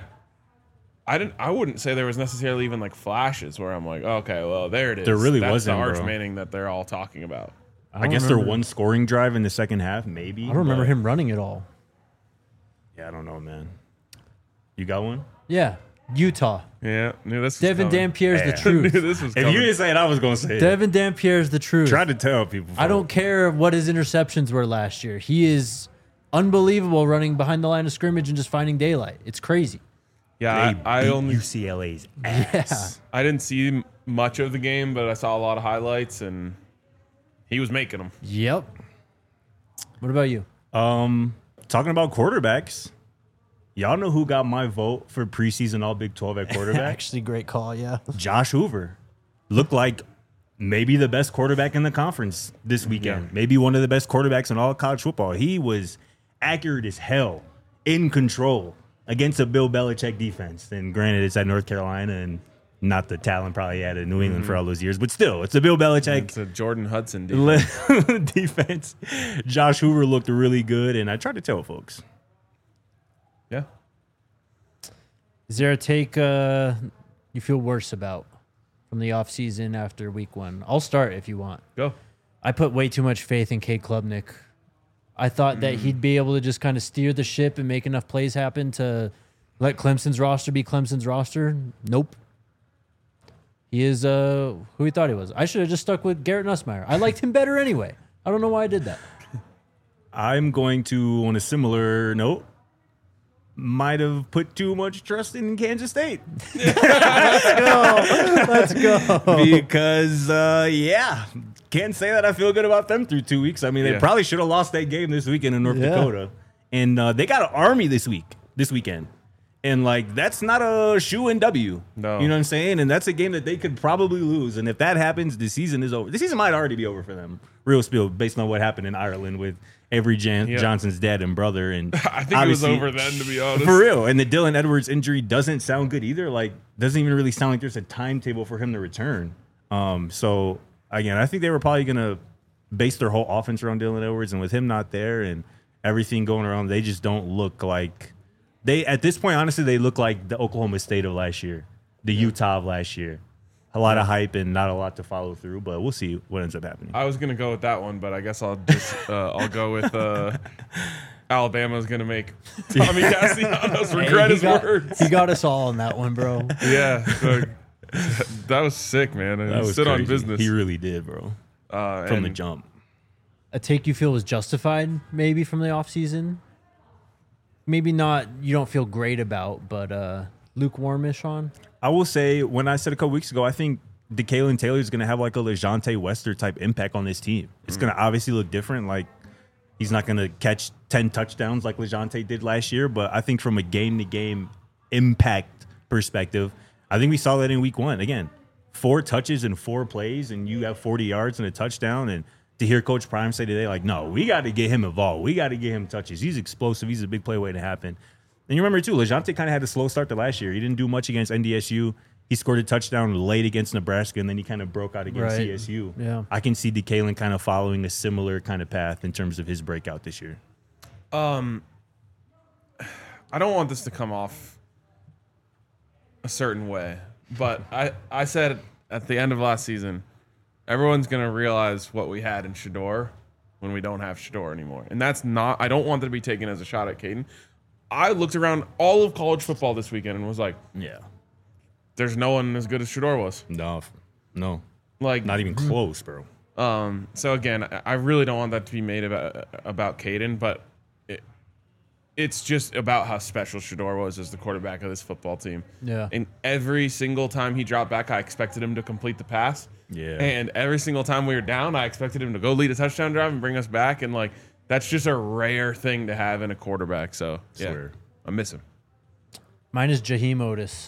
I wouldn't say there was necessarily even like flashes where I'm like, okay, well, there it is. There really That's wasn't, the Arch bro. Manning that they're all talking about. I guess there one scoring drive in the second half, maybe. I don't remember but- him running it all. Yeah, I don't know, man. You got one? Yeah. Utah. Yeah, knew this was Devin coming. Dampierre's the Yeah. truth. Knew this was If coming. you didn't say it, I was going to say it. Devin Dampierre's the truth. Try to tell people. I don't care what his interceptions were last year. He is unbelievable running behind the line of scrimmage and just finding daylight. It's crazy. Yeah, I only UCLA's ass. I didn't see much of the game, but I saw a lot of highlights, and he was making them. Yep. What about you? Talking about quarterbacks, y'all know who got my vote for preseason All Big 12 at quarterback? Actually, great call, yeah. Josh Hoover. Looked like maybe the best quarterback in the conference this weekend. Yeah. Maybe one of the best quarterbacks in all college football. He was accurate as hell, in control against a Bill Belichick defense. And granted, it's at North Carolina and not the talent probably had in New England for all those years, but still, it's a Bill Belichick It's a Jordan Hudson defense. defense. Josh Hoover looked really good, and I tried to tell folks. Yeah. Is there a take you feel worse about from the offseason after week 1? I'll start if you want. Go. I put way too much faith in Cade Klubnik. I thought that he'd be able to just kind of steer the ship and make enough plays happen to let Clemson's roster be Clemson's roster. Nope. He is who he thought he was. I should have just stuck with Garrett Nussmeier. I liked him better anyway. I don't know why I did that. I'm going to, on a similar note, might have put too much trust in Kansas State. Let's go. Because, can't say that I feel good about them through 2 weeks. I mean, they Yeah. probably should have lost that game this weekend in North Yeah. Dakota. And they got an Army this weekend. And, like, that's not a shoe-in W. No. You know what I'm saying? And that's a game that they could probably lose. And if that happens, the season is over. The season might already be over for them, real spill, based on what happened in Ireland with Avery Johnson's dad and brother. And I think it was obviously- over then, to be honest. for real. And the Dylan Edwards injury doesn't sound good either. Like, doesn't even really sound like there's a timetable for him to return. So, again, I think they were probably going to base their whole offense around Dylan Edwards. And with him not there and everything going around, they just don't look like they, at this point, honestly, they look like the Oklahoma State of last year, the Utah of last year. A lot of hype and not a lot to follow through, but we'll see what ends up happening. I was gonna go with that one, but I guess I'll just I'll go with Alabama's gonna make Tommy Castellanos regret his words. He got us all on that one, bro. Yeah, so, that was sick, man. And That he was stood on crazy. business He really did, bro. From the and jump. A take you feel was justified, maybe from the offseason. Maybe not. You don't feel great about, but lukewarmish on. I will say, when I said a couple weeks ago, I think DeKalen Taylor is going to have like a LeJontay Wester type impact on this team. It's going to obviously look different. Like, he's not going to catch 10 touchdowns like LeJontay did last year, but I think from a game-to-game impact perspective, I think we saw that in week one. Again, 4 touches and 4 plays, and you have 40 yards and a touchdown. And to hear Coach Prime say today, like, no, we got to get him involved. We got to get him touches. He's explosive. He's a big play waiting to happen. And you remember, too, LeJontay kind of had a slow start to last year. He didn't do much against NDSU. He scored a touchdown late against Nebraska, and then he kind of broke out against Right. CSU. Yeah. I can see DeKalen kind of following a similar kind of path in terms of his breakout this year. I don't want this to come off a certain way, but I said at the end of last season, everyone's gonna realize what we had in Shador when we don't have Shador anymore, and that's not. I don't want that to be taken as a shot at Caden. I looked around all of college football this weekend and was like, Yeah. "There's no one as good as Shador was." No. Like, Not even close, bro. So again, I really don't want that to be made about Caden, but it's just about how special Shador was as the quarterback of this football team. Yeah. And every single time he dropped back, I expected him to complete the pass. Yeah. And every single time we were down, I expected him to go lead a touchdown drive and bring us back. And like, that's just a rare thing to have in a quarterback. So yeah, Swear. I miss him. Mine is Jaheim Otis.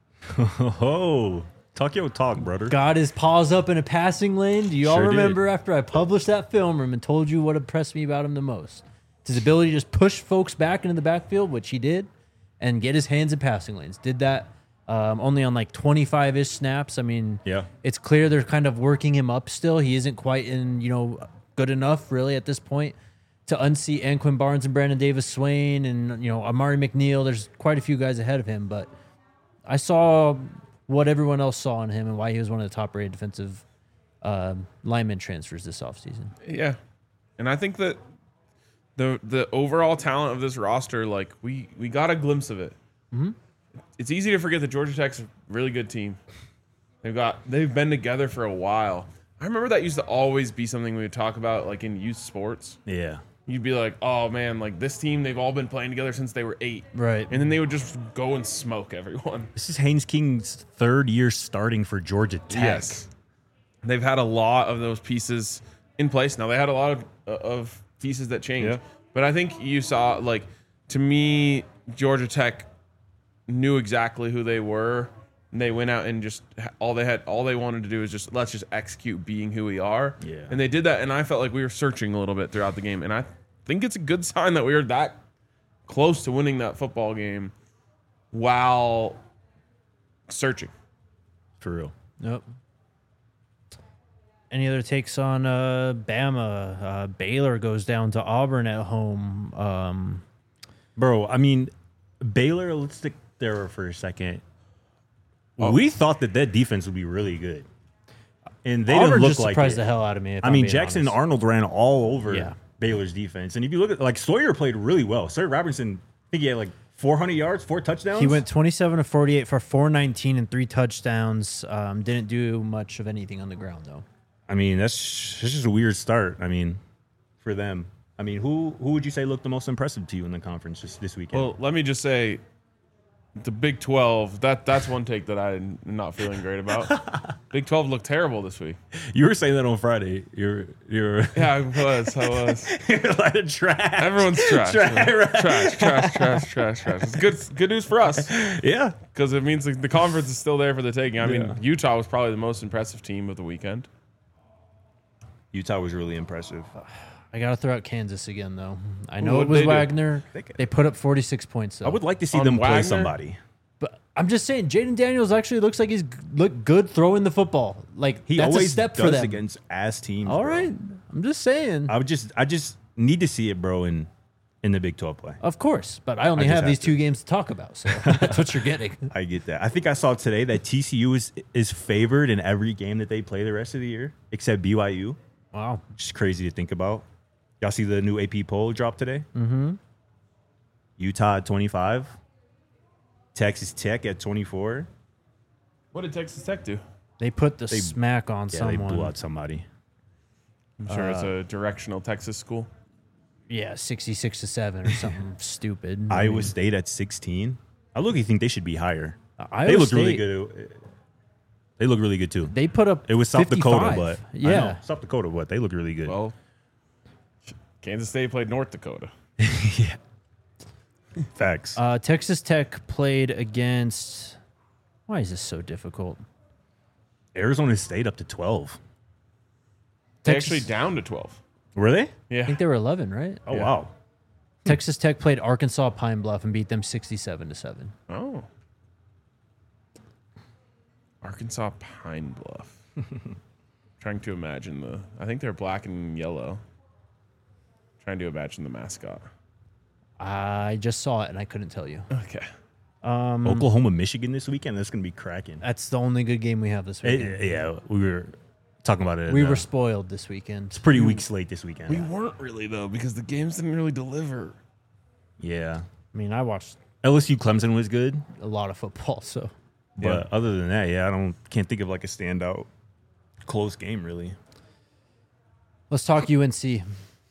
Oh, talk your talk, brother. Got his paws up in a passing lane. Do you all Sure did. remember after I published that film room and told you what impressed me about him the most? It's his ability to just push folks back into the backfield, which he did, and get his hands in passing lanes. Did that only on like 25-ish snaps. I mean, Yeah. it's clear they're kind of working him up still. He isn't quite in, good enough really at this point to unseat Anquin Barnes and Brandon Davis Swain and, Amari McNeil. There's quite a few guys ahead of him, but I saw what everyone else saw in him and why he was one of the top-rated defensive lineman transfers this offseason. Yeah. And I think that the overall talent of this roster, like we got a glimpse of it. Mm-hmm. It's easy to forget that Georgia Tech's a really good team. They've been together for a while. I remember that used to always be something we would talk about, like in youth sports. Yeah. You'd be like, "Oh man, like this team, they've all been playing together since they were 8." Right. And then they would just go and smoke everyone. This is Haynes King's 3rd year starting for Georgia Tech. Yes. They've had a lot of those pieces in place. Now they had a lot of pieces that changed. Yeah. But I think you saw, like, to me, Georgia Tech knew exactly who they were. And they went out and just all they wanted to do is just let's just execute being who we are. Yeah. And they did that, and I felt like we were searching a little bit throughout the game. And I think it's a good sign that we were that close to winning that football game while searching. For real. Yep. Any other takes on Bama? Baylor goes down to Auburn at home. Bro, I mean, Baylor, let's stick there for a second. We thought that defense would be really good. And they Auburn didn't look just like surprised it. the hell out of me. If I I'm mean, being Jackson honest. Arnold ran all over Yeah. Baylor's defense. And if you look at, like, Sawyer played really well. Sawyer Robertson, I think he had like 400 yards, 4 touchdowns. He went 27 of 48 for 419 and 3 touchdowns. Didn't do much of anything on the ground though. I mean, that's just a weird start. I mean, for them. I mean, who would you say looked the most impressive to you in the conference this weekend? Well, let me just say, the Big 12. That's one take that I'm not feeling great about. Big 12 looked terrible this week. You were saying that on Friday. You're Yeah, I was. you're a lot of trash. Everyone's trash. Trash. It's good news for us. Yeah, Because it means the conference is still there for the taking. I mean, Utah was probably the most impressive team of the weekend. Utah was really impressive. I got to throw out Kansas again, though. I know What'd it was they do? Wagner. They put up 46 points, though. I would like to see On them play Wagner? somebody. But I'm just saying, Jaden Daniels actually looks like he's looked good throwing the football. Like, He that's a always step does for them. against ass teams. All bro. right. I'm just saying. I just need to see it, bro, in the Big 12 play. Of course. But I only just have have these to. 2 games to talk about. So that's what you're getting. I get that. I think I saw today that TCU is favored in every game that they play the rest of the year, except BYU. Wow. Which is crazy to think about. Y'all see the new AP poll drop today? Mm-hmm. Utah at 25. Texas Tech at 24. What did Texas Tech do? They put the smack on Yeah, someone. they blew out somebody. I'm sure it's a directional Texas school. Yeah, 66-7 or something stupid. Iowa State at 16. I look. You think they should be higher? Iowa They look State, really good. They look really good too. They put up It was South 55. Dakota, but I yeah. know, South Dakota, but they look really good. Well, Kansas State played North Dakota. Facts. Texas Tech played against. Why is this so difficult? Arizona State up to 12. They Texas- actually down to 12. Were they? I Yeah. think they were 11, right? Oh Yeah. wow. Texas Tech played Arkansas Pine Bluff and beat them 67-7. Oh. Arkansas Pine Bluff. Trying to imagine I think they're black and yellow. Trying to imagine the mascot. I just saw it and I couldn't tell you. Okay. Oklahoma, Michigan this weekend. That's gonna be cracking. That's the only good game we have this weekend. Yeah, we were talking about it. We were spoiled this weekend. It's pretty weak slate this weekend. We weren't really, though, because the games didn't really deliver. Yeah. I mean, I watched LSU Clemson was good, a lot of football, so but other than that, yeah, can't think of like a standout close game really. let's talk UNC.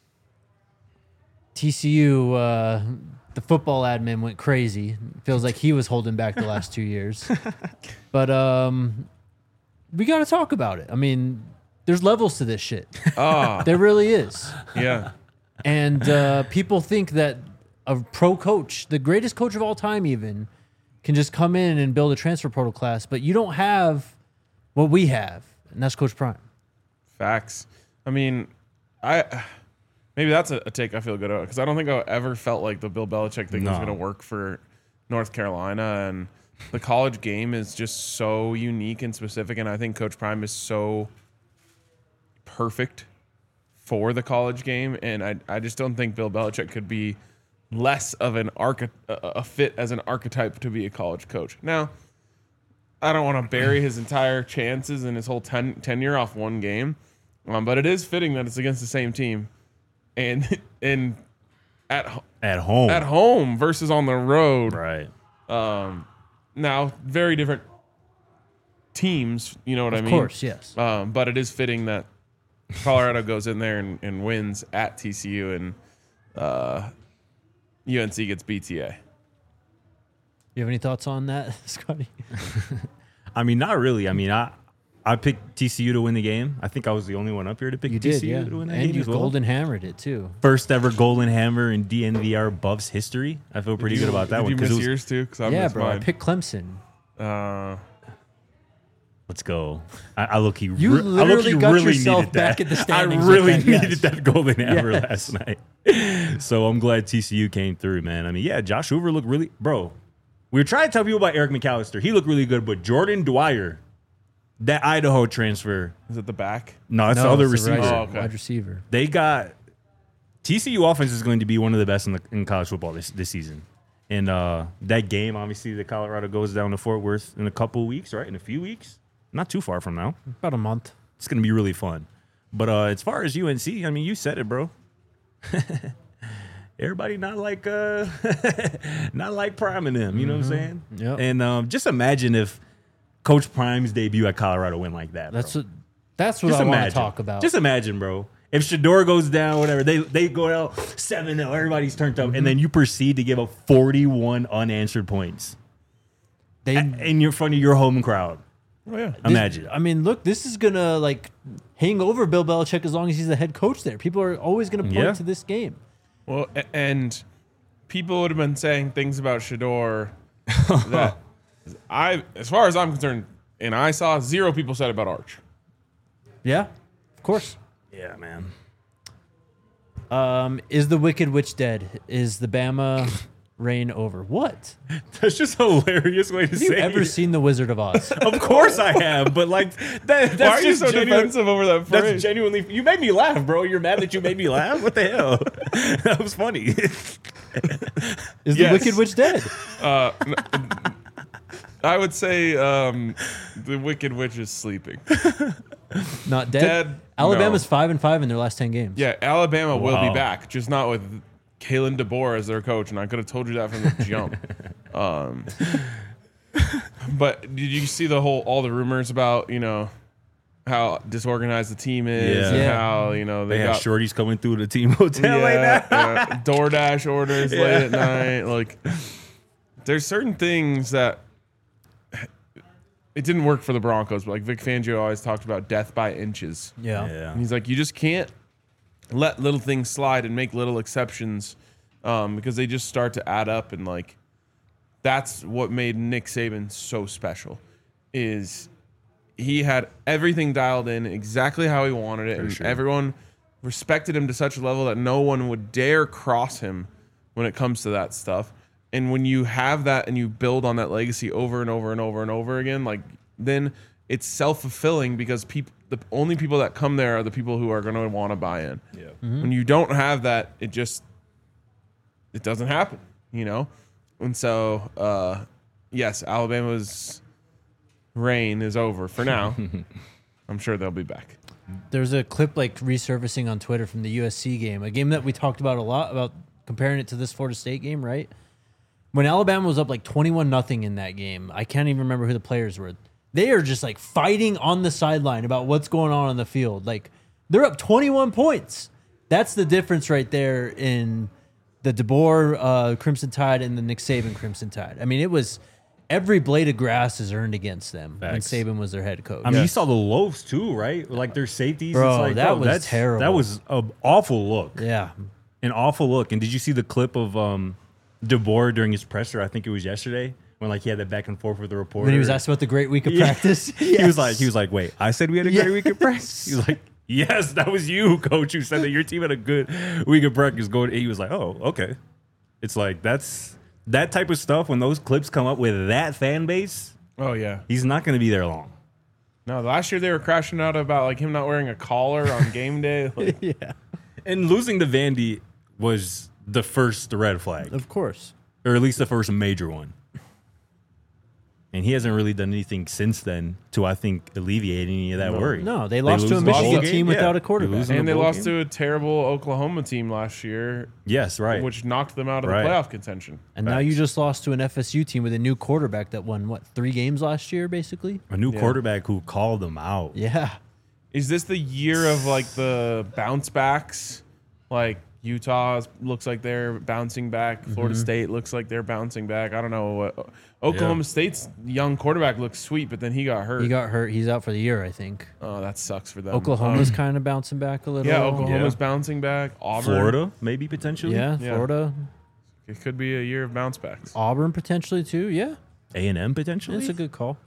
TCU, the football admin went crazy. Feels like he was holding back the last 2 years. But we got to talk about it. I mean, there's levels to this shit. Ah, There really is. yeah. And people think that a pro coach, the greatest coach of all time even, can just come in and build a transfer portal class. But you don't have what we have, and that's Coach Prime. Facts. I mean, maybe that's a take I feel good about because I don't think I ever felt like the Bill Belichick thing was No. going to work for North Carolina, and the college game is just so unique and specific, and I think Coach Prime is so perfect for the college game, and I just don't think Bill Belichick could be less of a fit as an archetype to be a college coach. Now, I don't want to bury his entire chances and his whole tenure off one game, but it is fitting that it's against the same team, and at At home. versus on the road. Right. Now, very different teams. You know what I mean? Of course, yes. But it is fitting that Colorado goes in there and wins at TCU, and UNC gets BTA. You have any thoughts on that, Scotty? I mean, not really. I mean, I picked TCU to win the game. I think I was the only one up here to pick You TCU did, yeah. to win that And game you as well. golden hammered it, too. First ever golden hammer in DNVR Buffs history. I feel pretty good about that Did one. you 'cause miss it was- yours too? Because I Yeah, missed bro. I mine. picked Clemson. Let's go. I look. You literally got yourself back in the standings I really with that, yes. needed that golden hammer Yes. last night. So I'm glad TCU came through, man. I mean, yeah, Josh Hoover looked really, bro. We were trying to tell people about Eric McAllister. He looked really good, but Jordan Dwyer, that Idaho transfer, Is it the back? no, it's the No, other it's the receiver. Oh, okay. wide receiver. They got TCU offense is going to be one of the best in college football this season. And that game, obviously, that Colorado goes down to Fort Worth in a couple of weeks, right? In a few weeks, not too far from now. About a month. It's going to be really fun. But as far as UNC, I mean, you said it, bro. Everybody not like not like Prime and them, you know what I'm saying? Yep. And just imagine if Coach Prime's debut at Colorado went like that. That's bro. what I want to talk about. Just imagine, bro. If Shador goes down, whatever, they go out 7-0, everybody's turned up, and then you proceed to give up 41 unanswered points in front of your home crowd. Oh yeah. Imagine. I mean, look, this is gonna like hang over Bill Belichick as long as he's the head coach there. People are always gonna point to this game. Well, and people would have been saying things about Shador that as far as I'm concerned, and I saw 0 people said about Arch. Yeah, of course. Yeah, man. Is the Wicked Witch dead? Is the Bama reign over? What? That's just a hilarious way to Have you say ever it. seen The Wizard of Oz? Of course I have, but like that's Why are you just so genuine- defensive over that phrase? That's genuinely. You made me laugh, bro. You're mad that you made me laugh. What the hell? That was funny. Is the Yes. Wicked Witch dead? I would say the Wicked Witch is sleeping. Not dead. Dead, Alabama's no. 5-5 in their last 10 games. Yeah, Alabama will Wow. be back, just not with Kalen DeBoer as their coach, and I could have told you that from the jump. But did you see all the rumors about, how disorganized the team is Yeah. and Yeah. how, They have got shorties coming through the team hotel like that. DoorDash orders late at night. Like, there's certain things that it didn't work for the Broncos, but like Vic Fangio always talked about death by inches. Yeah. And he's like, you just can't let little things slide and make little exceptions because they just start to add up. And like, that's what made Nick Saban so special is he had everything dialed in exactly how he wanted it. And everyone respected him to such a level that no one would dare cross him when it comes to that stuff. And when you have that and you build on that legacy over and over and over and over again, like then it's self-fulfilling because the only people that come there are the people who are going to want to buy in. Yeah. When you don't have that, it doesn't happen, And so, yes, Alabama's reign is over for now. I'm sure they'll be back. There's a clip like resurfacing on Twitter from the USC game, a game that we talked about a lot, about comparing it to this Florida State game, right? When Alabama was up like 21-0 in that game, I can't even remember who the players were. They are just like fighting on the sideline about what's going on the field. Like they're up 21 points. That's the difference right there in the DeBoer Crimson Tide and the Nick Saban Crimson Tide. I mean, it was every blade of grass is earned against them Facts. when Saban was their head coach. I mean, you saw the loafs too, right? Like their safeties. Bro, it's like, that was that's terrible. That was an awful look. Yeah. An awful look. And did you see the clip of DeBoer during his presser? I think it was yesterday when like he had that back and forth with the reporter. When he was asked about the great week of practice. He was like, wait, I said we had a great week of practice. He was like, yes, that was you, coach, who said that your team had a good week of practice. He was like, oh, okay. It's like that type of stuff. When those clips come up with that fan base, Oh, yeah. he's not going to be there long. No, last year they were crashing out about like him not wearing a collar on game day. Like, Yeah. And losing to Vandy was the first red flag, Of course. or at least the first major one. And he hasn't really done anything since then to, I think, alleviate any of that worry. No, they lost lose to a the Michigan bowl team game? without Yeah. a quarterback. They lose in and the they bowl lost game? to a terrible Oklahoma team last year, Yes, right. which knocked them out of the Right. playoff contention. And now you just lost to an FSU team with a new quarterback that won, 3 games last year, basically? A new quarterback who called them out. Yeah. Is this the year of like the bounce backs? Like Utah looks like they're bouncing back. Florida State looks like they're bouncing back. I don't know what. Oklahoma State's young quarterback looks sweet, but then he got hurt. He got hurt. He's out for the year, I think. Oh, that sucks for them. Oklahoma's kind of bouncing back a little. Yeah, Oklahoma's Yeah. bouncing back. Auburn. Florida, maybe potentially. Yeah, Yeah. Florida. It could be a year of bounce backs. Auburn potentially, too. Yeah. A&M potentially. That's a good call.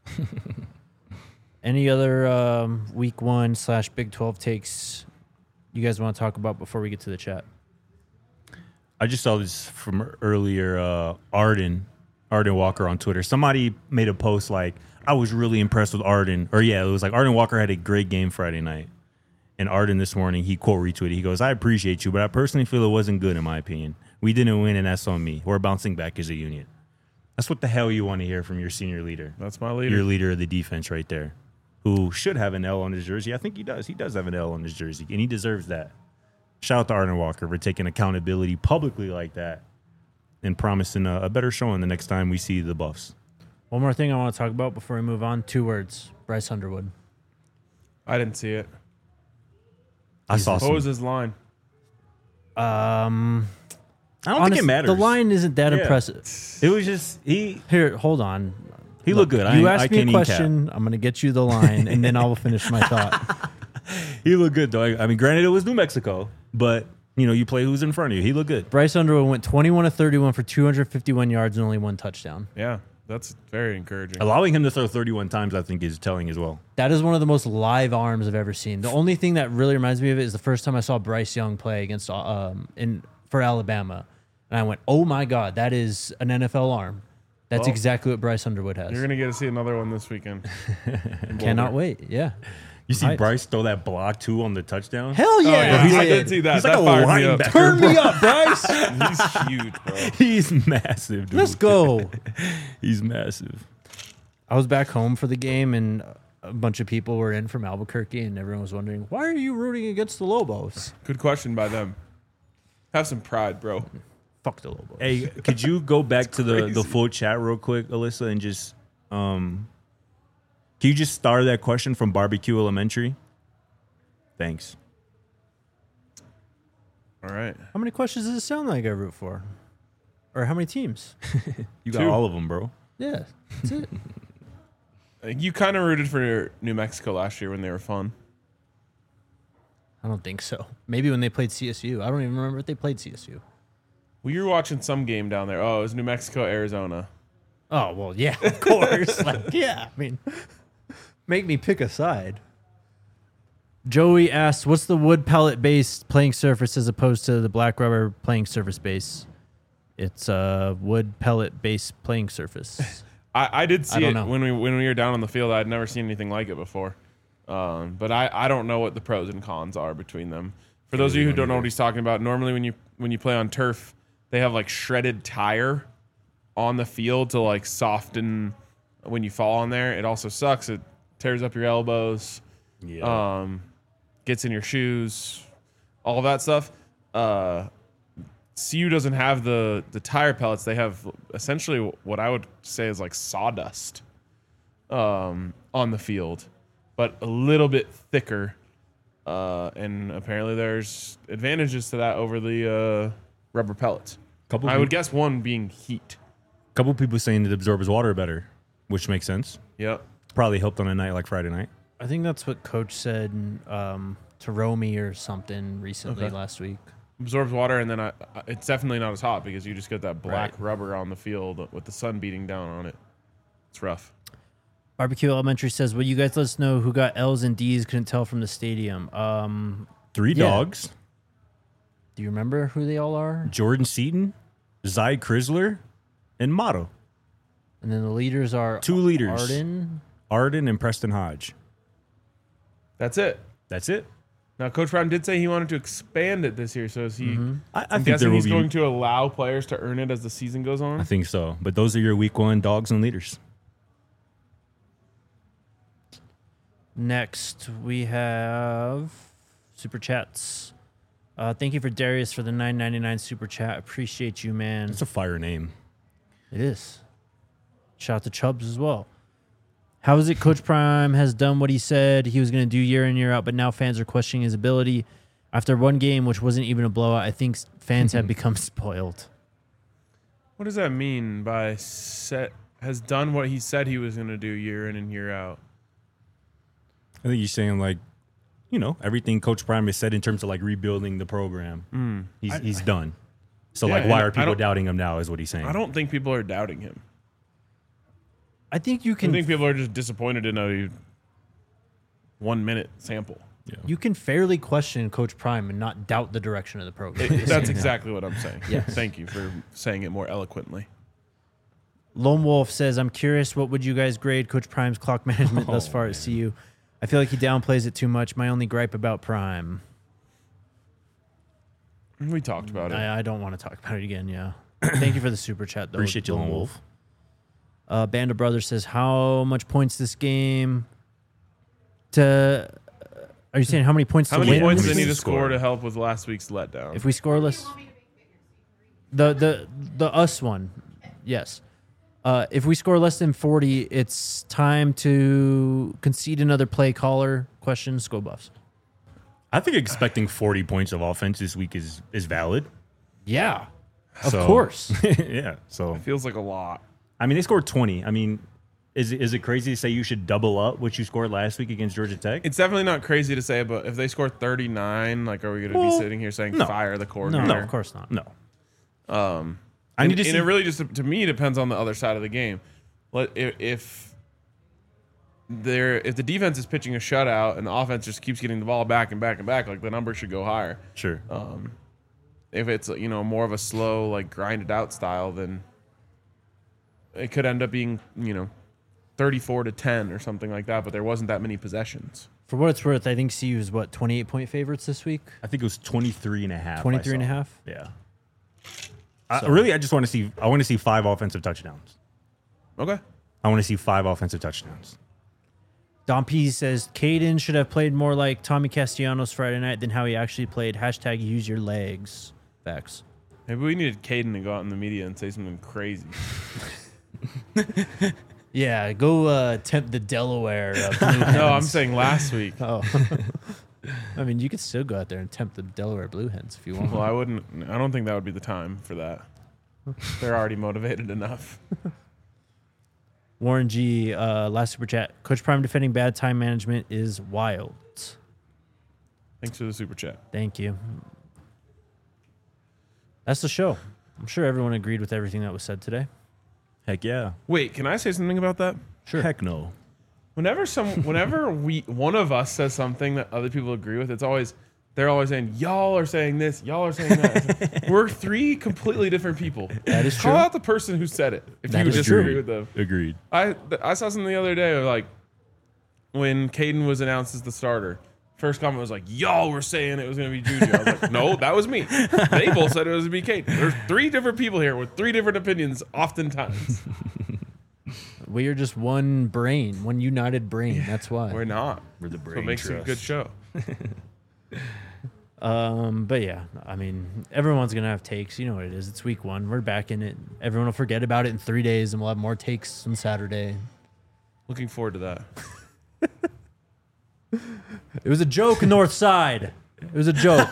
Any other week 1 / Big 12 takes you guys want to talk about before we get to the chat? I just saw this from earlier. Arden Walker on Twitter. Somebody made a post like, I was really impressed with Arden. Or yeah, it was like Arden Walker had a great game Friday night. And Arden this morning, he quote retweeted. He goes, I appreciate you, but I personally feel it wasn't good in my opinion. We didn't win, and that's on me. We're bouncing back as a unit. That's what the hell you want to hear from your senior leader. That's my leader. Your leader of the defense right there, who should have an L on his jersey. I think he does. He does have an L on his jersey, and he deserves that. Shout out to Arden Walker for taking accountability publicly like that and promising a better showing the next time we see the Buffs. One more thing I want to talk about before we move on. 2 words. Bryce Underwood. I didn't see it. I saw What some. was his line? I don't think it matters. The line isn't that Yeah. impressive. It was just he Here, hold on. looked good. You I asked me can't a even question. I'm going to get you the line, and then I'll finish my thought. He looked good though. I mean, granted, it was New Mexico, but you play who's in front of you. He looked good. Bryce Underwood went 21 of 31 for 251 yards and only one touchdown. Yeah, that's very encouraging. Allowing him to throw 31 times, I think, is telling as well. That is one of the most live arms I've ever seen. The only thing that really reminds me of it is the first time I saw Bryce Young play against for Alabama, and I went, "Oh my God, that is an NFL arm." That's Well, exactly what Bryce Underwood has. You're gonna get to see another one this weekend. Cannot wait. Yeah. You see Right. Bryce throw that block too on the touchdown. Hell yeah! yeah, he I did. did see that. He's That like a fired me up. linebacker. Turn me up, Bryce. He's huge, bro. He's massive, dude. Let's go. He's massive. I was back home for the game, and a bunch of people were in from Albuquerque, and everyone was wondering, why are you rooting against the Lobos? Good question by them. Have some pride, bro. Fuck the Lobos. Hey, could you go back to the crazy. full chat real quick, Alyssa, and just can you just start that question from Barbecue Elementary? Thanks. All right. How many questions does it sound like I root for? Or how many teams? You got 2. all of them, bro. Yeah, that's it. You kind of rooted for New Mexico last year when they were fun. I don't think so. Maybe when they played CSU. I don't even remember if they played CSU. Well, you were watching some game down there. Oh, it was New Mexico, Arizona. Oh, well, yeah, of course. Like, yeah, I mean, make me pick a side. Joey asked, what's the wood pellet based playing surface as opposed to the black rubber playing surface base? It's a wood pellet based playing surface. I did see don't it know. when we were down on the field. I'd never seen anything like it before. But I don't know what the pros and cons are between them. For those of you who don't know what he's talking about, normally when you play on turf, they have like shredded tire on the field to like soften when you fall on there. It also sucks. It tears up your elbows. Yeah. Gets in your shoes, all of that stuff. CU doesn't have the tire pellets. They have essentially what I would say is like sawdust on the field, but a little bit thicker. And apparently there's advantages to that over the rubber pellets. I would guess one being heat. Couple people saying it absorbs water better, which makes sense. Yep. Probably helped on a night like Friday night. I think that's what Coach said to Romy or something recently Okay. last week. Absorbs water, and then it's definitely not as hot because you just get that black Right. rubber on the field with the sun beating down on it. It's rough. Barbecue Elementary says, will you guys let us know who got L's and D's, couldn't tell from the stadium? 3 Yeah. dogs. Do you remember who they all are? Jordan Seaton, Zy Chrysler, and Motto. And then the leaders are 2 leaders. Arden. And Preston Hodge. That's it. That's it. Now, Coach Brown did say he wanted to expand it this year, so is he? I I'm think guessing there will he's be. going to allow players to earn it as the season goes I on. think so. But those are your week 1 dogs and leaders. Next, we have Super Chats. Thank you for Darius for the $9.99 Super Chat. Appreciate you, man. It's a fire name. It is. Shout out to Chubbs as well. How is it Coach Prime has done what he said he was going to do year in, year out, but now fans are questioning his ability? After one game, which wasn't even a blowout, I think fans have become spoiled. What does that mean by has done what he said he was going to do year in and year out? I think you're saying like, everything Coach Prime has said in terms of like rebuilding the program. He's done. So Yeah, like, why and are I people don't- doubting him now? Is what he's saying. I don't think people are doubting him. I think you I can think people are just disappointed in a 1 minute sample. you can fairly question Coach Prime and not doubt the direction of the program. That's exactly what I'm saying. Yes. Thank you for saying it more eloquently. Lone Wolf says, I'm curious, what would you guys grade Coach Prime's clock management thus far at CU? I feel like he downplays it too much. My only gripe about Prime. We talked about it. I don't want to talk about it again, yeah. Thank you for the super chat, though. Appreciate you, Lone Wolf. Band of Brothers says, how much points this game to... Are you saying how many points How to many win? points do How they many need to score? score to help with last week's letdown? If we scoreless... The us one, yes. If we score less than 40, it's time to concede another play caller. Questions, go Buffs. I think expecting 40 points of offense this week is valid. Yeah, of So- course. Yeah. So Feels like a lot. I mean, they scored 20. I mean, is it crazy to say you should double up what you scored last week against Georgia Tech? It's definitely not crazy to say, but if they score 39, like, are we going to be sitting here saying no. fire the No, coordinator? of course not. No. I need to and see- it really just, to me, depends on the other side of the game. If the defense is pitching a shutout and the offense just keeps getting the ball back and back and back, like, the number should go higher. Sure. If it's, more of a slow, like, grinded out style, then it could end up being, 34-10 or something like that, but there wasn't that many possessions. For what it's worth, I think CU is 28-point favorites this week. I think it was 23 and a half. 23 and a I saw. half? Yeah. I just want to see 5 offensive touchdowns. Okay. I want to see 5 offensive touchdowns. Don P says Caden should have played more like Tommy Castellanos Friday night than how he actually played. Hashtag use your legs. Facts. Maybe we needed Caden to go out in the media and say something crazy. Yeah, go tempt the Delaware. Blue No, I'm Hens. saying last week. Oh. I mean, you could still go out there and tempt the Delaware Blue Hens if you want. Well, I don't think that would be the time for that. They're already motivated enough. Warren G, last super chat. Coach Prime defending bad time management is wild. Thanks for the super chat. Thank you. That's the show. I'm sure everyone agreed with everything that was said today. Heck yeah. Wait, can I say something about that? Sure. Heck no. Whenever one of us says something that other people agree with, they're always saying, y'all are saying this, y'all are saying that. We're 3 completely different people. That is Call true. out the person who said it if That you is disagree true. with them. Agreed. I saw something the other day, like, when Caden was announced as the starter. First comment was like, y'all were saying it was going to be Juju. I was like, no, that was me. They both said it was going to be Caden. There's 3 different people here with 3 different opinions oftentimes. We are just one brain, one united brain. That's why. We're not. We're the So brain it makes it a good trust. show. But yeah, I mean, everyone's gonna have takes. You know what it is. It's week 1. We're back in it. Everyone will forget about it in 3 days, and we'll have more takes on Saturday. Looking forward to that. It was a joke, North Side. It was a joke.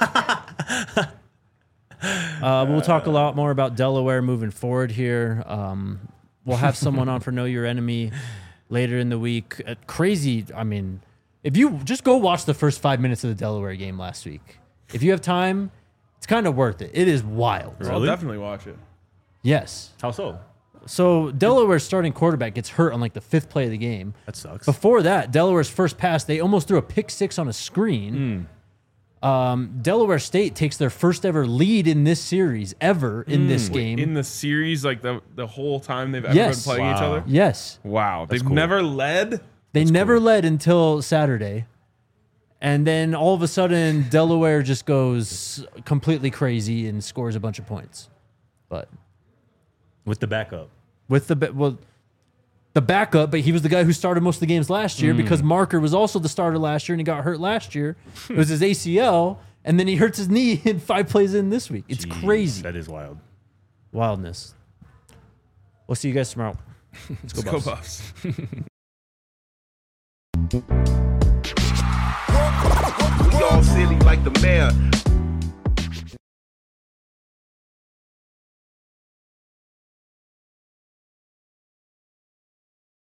We'll talk a lot more about Delaware moving forward here. We'll have someone on for Know Your Enemy later in the week. Crazy. I mean, if you just go watch the first 5 minutes of the Delaware game last week, if you have time, it's kind of worth it. It is wild. I'll Really? definitely watch it. Yes. How so? So Delaware's starting quarterback gets hurt on like the 5th play of the game. That sucks. Before that, Delaware's first pass, they almost threw a pick 6 on a screen. Delaware State takes their first ever lead in this series ever in this game. In the series, like the whole time they've ever Yes. been playing each Wow. other? Yes. Wow. They've cool. never led? They never led until Saturday. And then all of a sudden, Delaware just goes completely crazy and scores a bunch of points. But With the backup. with the backup, but he was the guy who started most of the games last year because Marker was also the starter last year and he got hurt last year. It was his ACL, and then he hurts his knee in 5 plays in this week. It's Jeez, crazy. That is wild. Wildness. We'll see you guys tomorrow. Let's go Buffs. We all silly like the mayor.